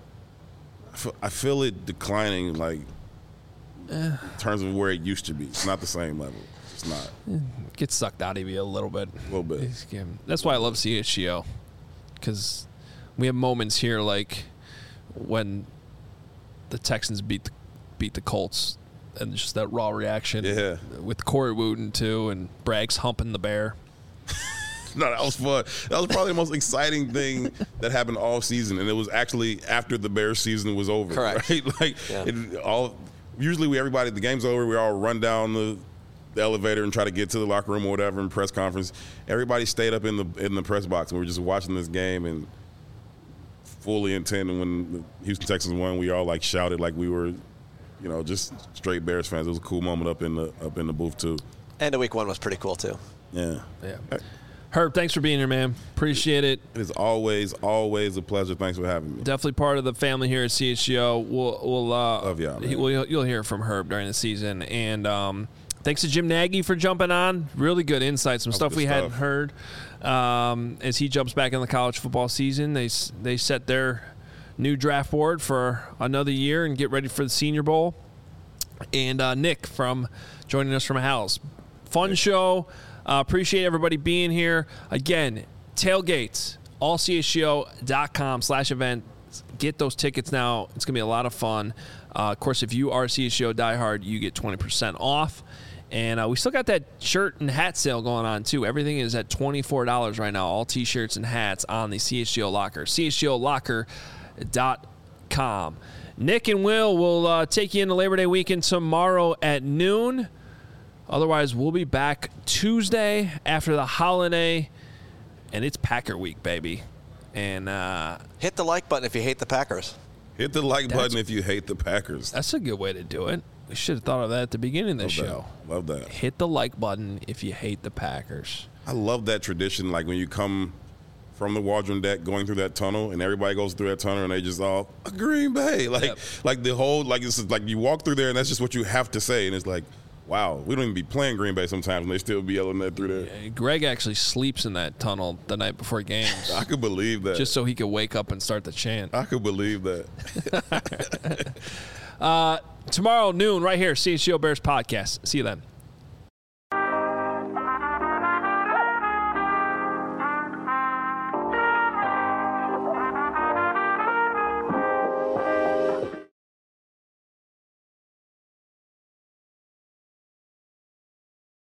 I feel it declining, like in terms of where it used to be. It's not the same level. It's not. It gets sucked out of you a little bit. A little bit. That's why I love CHGO, because we have moments here like when the Texans beat the Colts, and just that raw reaction. Yeah. With Corey Wooten too, and Bragg's humping the bear. No, that was fun. That was probably the most exciting thing that happened all season, and it was actually after the Bears season was over. Correct. Right? Like usually everybody, the game's over, we all run down the elevator and try to get to the locker room or whatever in press conference. Everybody stayed up in the press box, and we were just watching this game and fully intent. And when the Houston Texans won, we all like shouted like we were, just straight Bears fans. It was a cool moment up in the booth too. And the week one was pretty cool too. Yeah. Herb, thanks for being here, man. Appreciate it. It is always a pleasure. Thanks for having me. Definitely part of the family here at CHGO. We'll love y'all, man. You'll hear from Herb during the season, and thanks to Jim Nagy for jumping on. Really good insight, some stuff we hadn't heard. As he jumps back in the college football season, they set their new draft board for another year and get ready for the Senior Bowl. And Nick from joining us from Hal's. Fun show. Appreciate everybody being here. Again, tailgates, allchgo.com/events. Get those tickets now. It's going to be a lot of fun. Of course, if you are a CHGO diehard, you get 20% off. And we still got that shirt and hat sale going on, too. Everything is at $24 right now, all T-shirts and hats on the CHGO Locker, chgolocker.com. Nick and Will will take you into Labor Day weekend tomorrow at noon. Otherwise, we'll be back Tuesday after the holiday, and it's Packer week, baby. And hit the like button if you hate the Packers. Hit the like button if you hate the Packers. That's a good way to do it. We should have thought of that at the beginning of the show. Love that. Hit the like button if you hate the Packers. I love that tradition, like when you come from the Waldron deck going through that tunnel, and everybody goes through that tunnel, and they just all Green Bay, like the whole, like it's like you walk through there, and that's just what you have to say, and it's like, wow, we don't even be playing Green Bay sometimes, and they still be yelling that through there. Yeah, Greg actually sleeps in that tunnel the night before games. I could believe that. Just so he could wake up and start the chant. I could believe that. Tomorrow noon, right here, CHGO Bears podcast. See you then.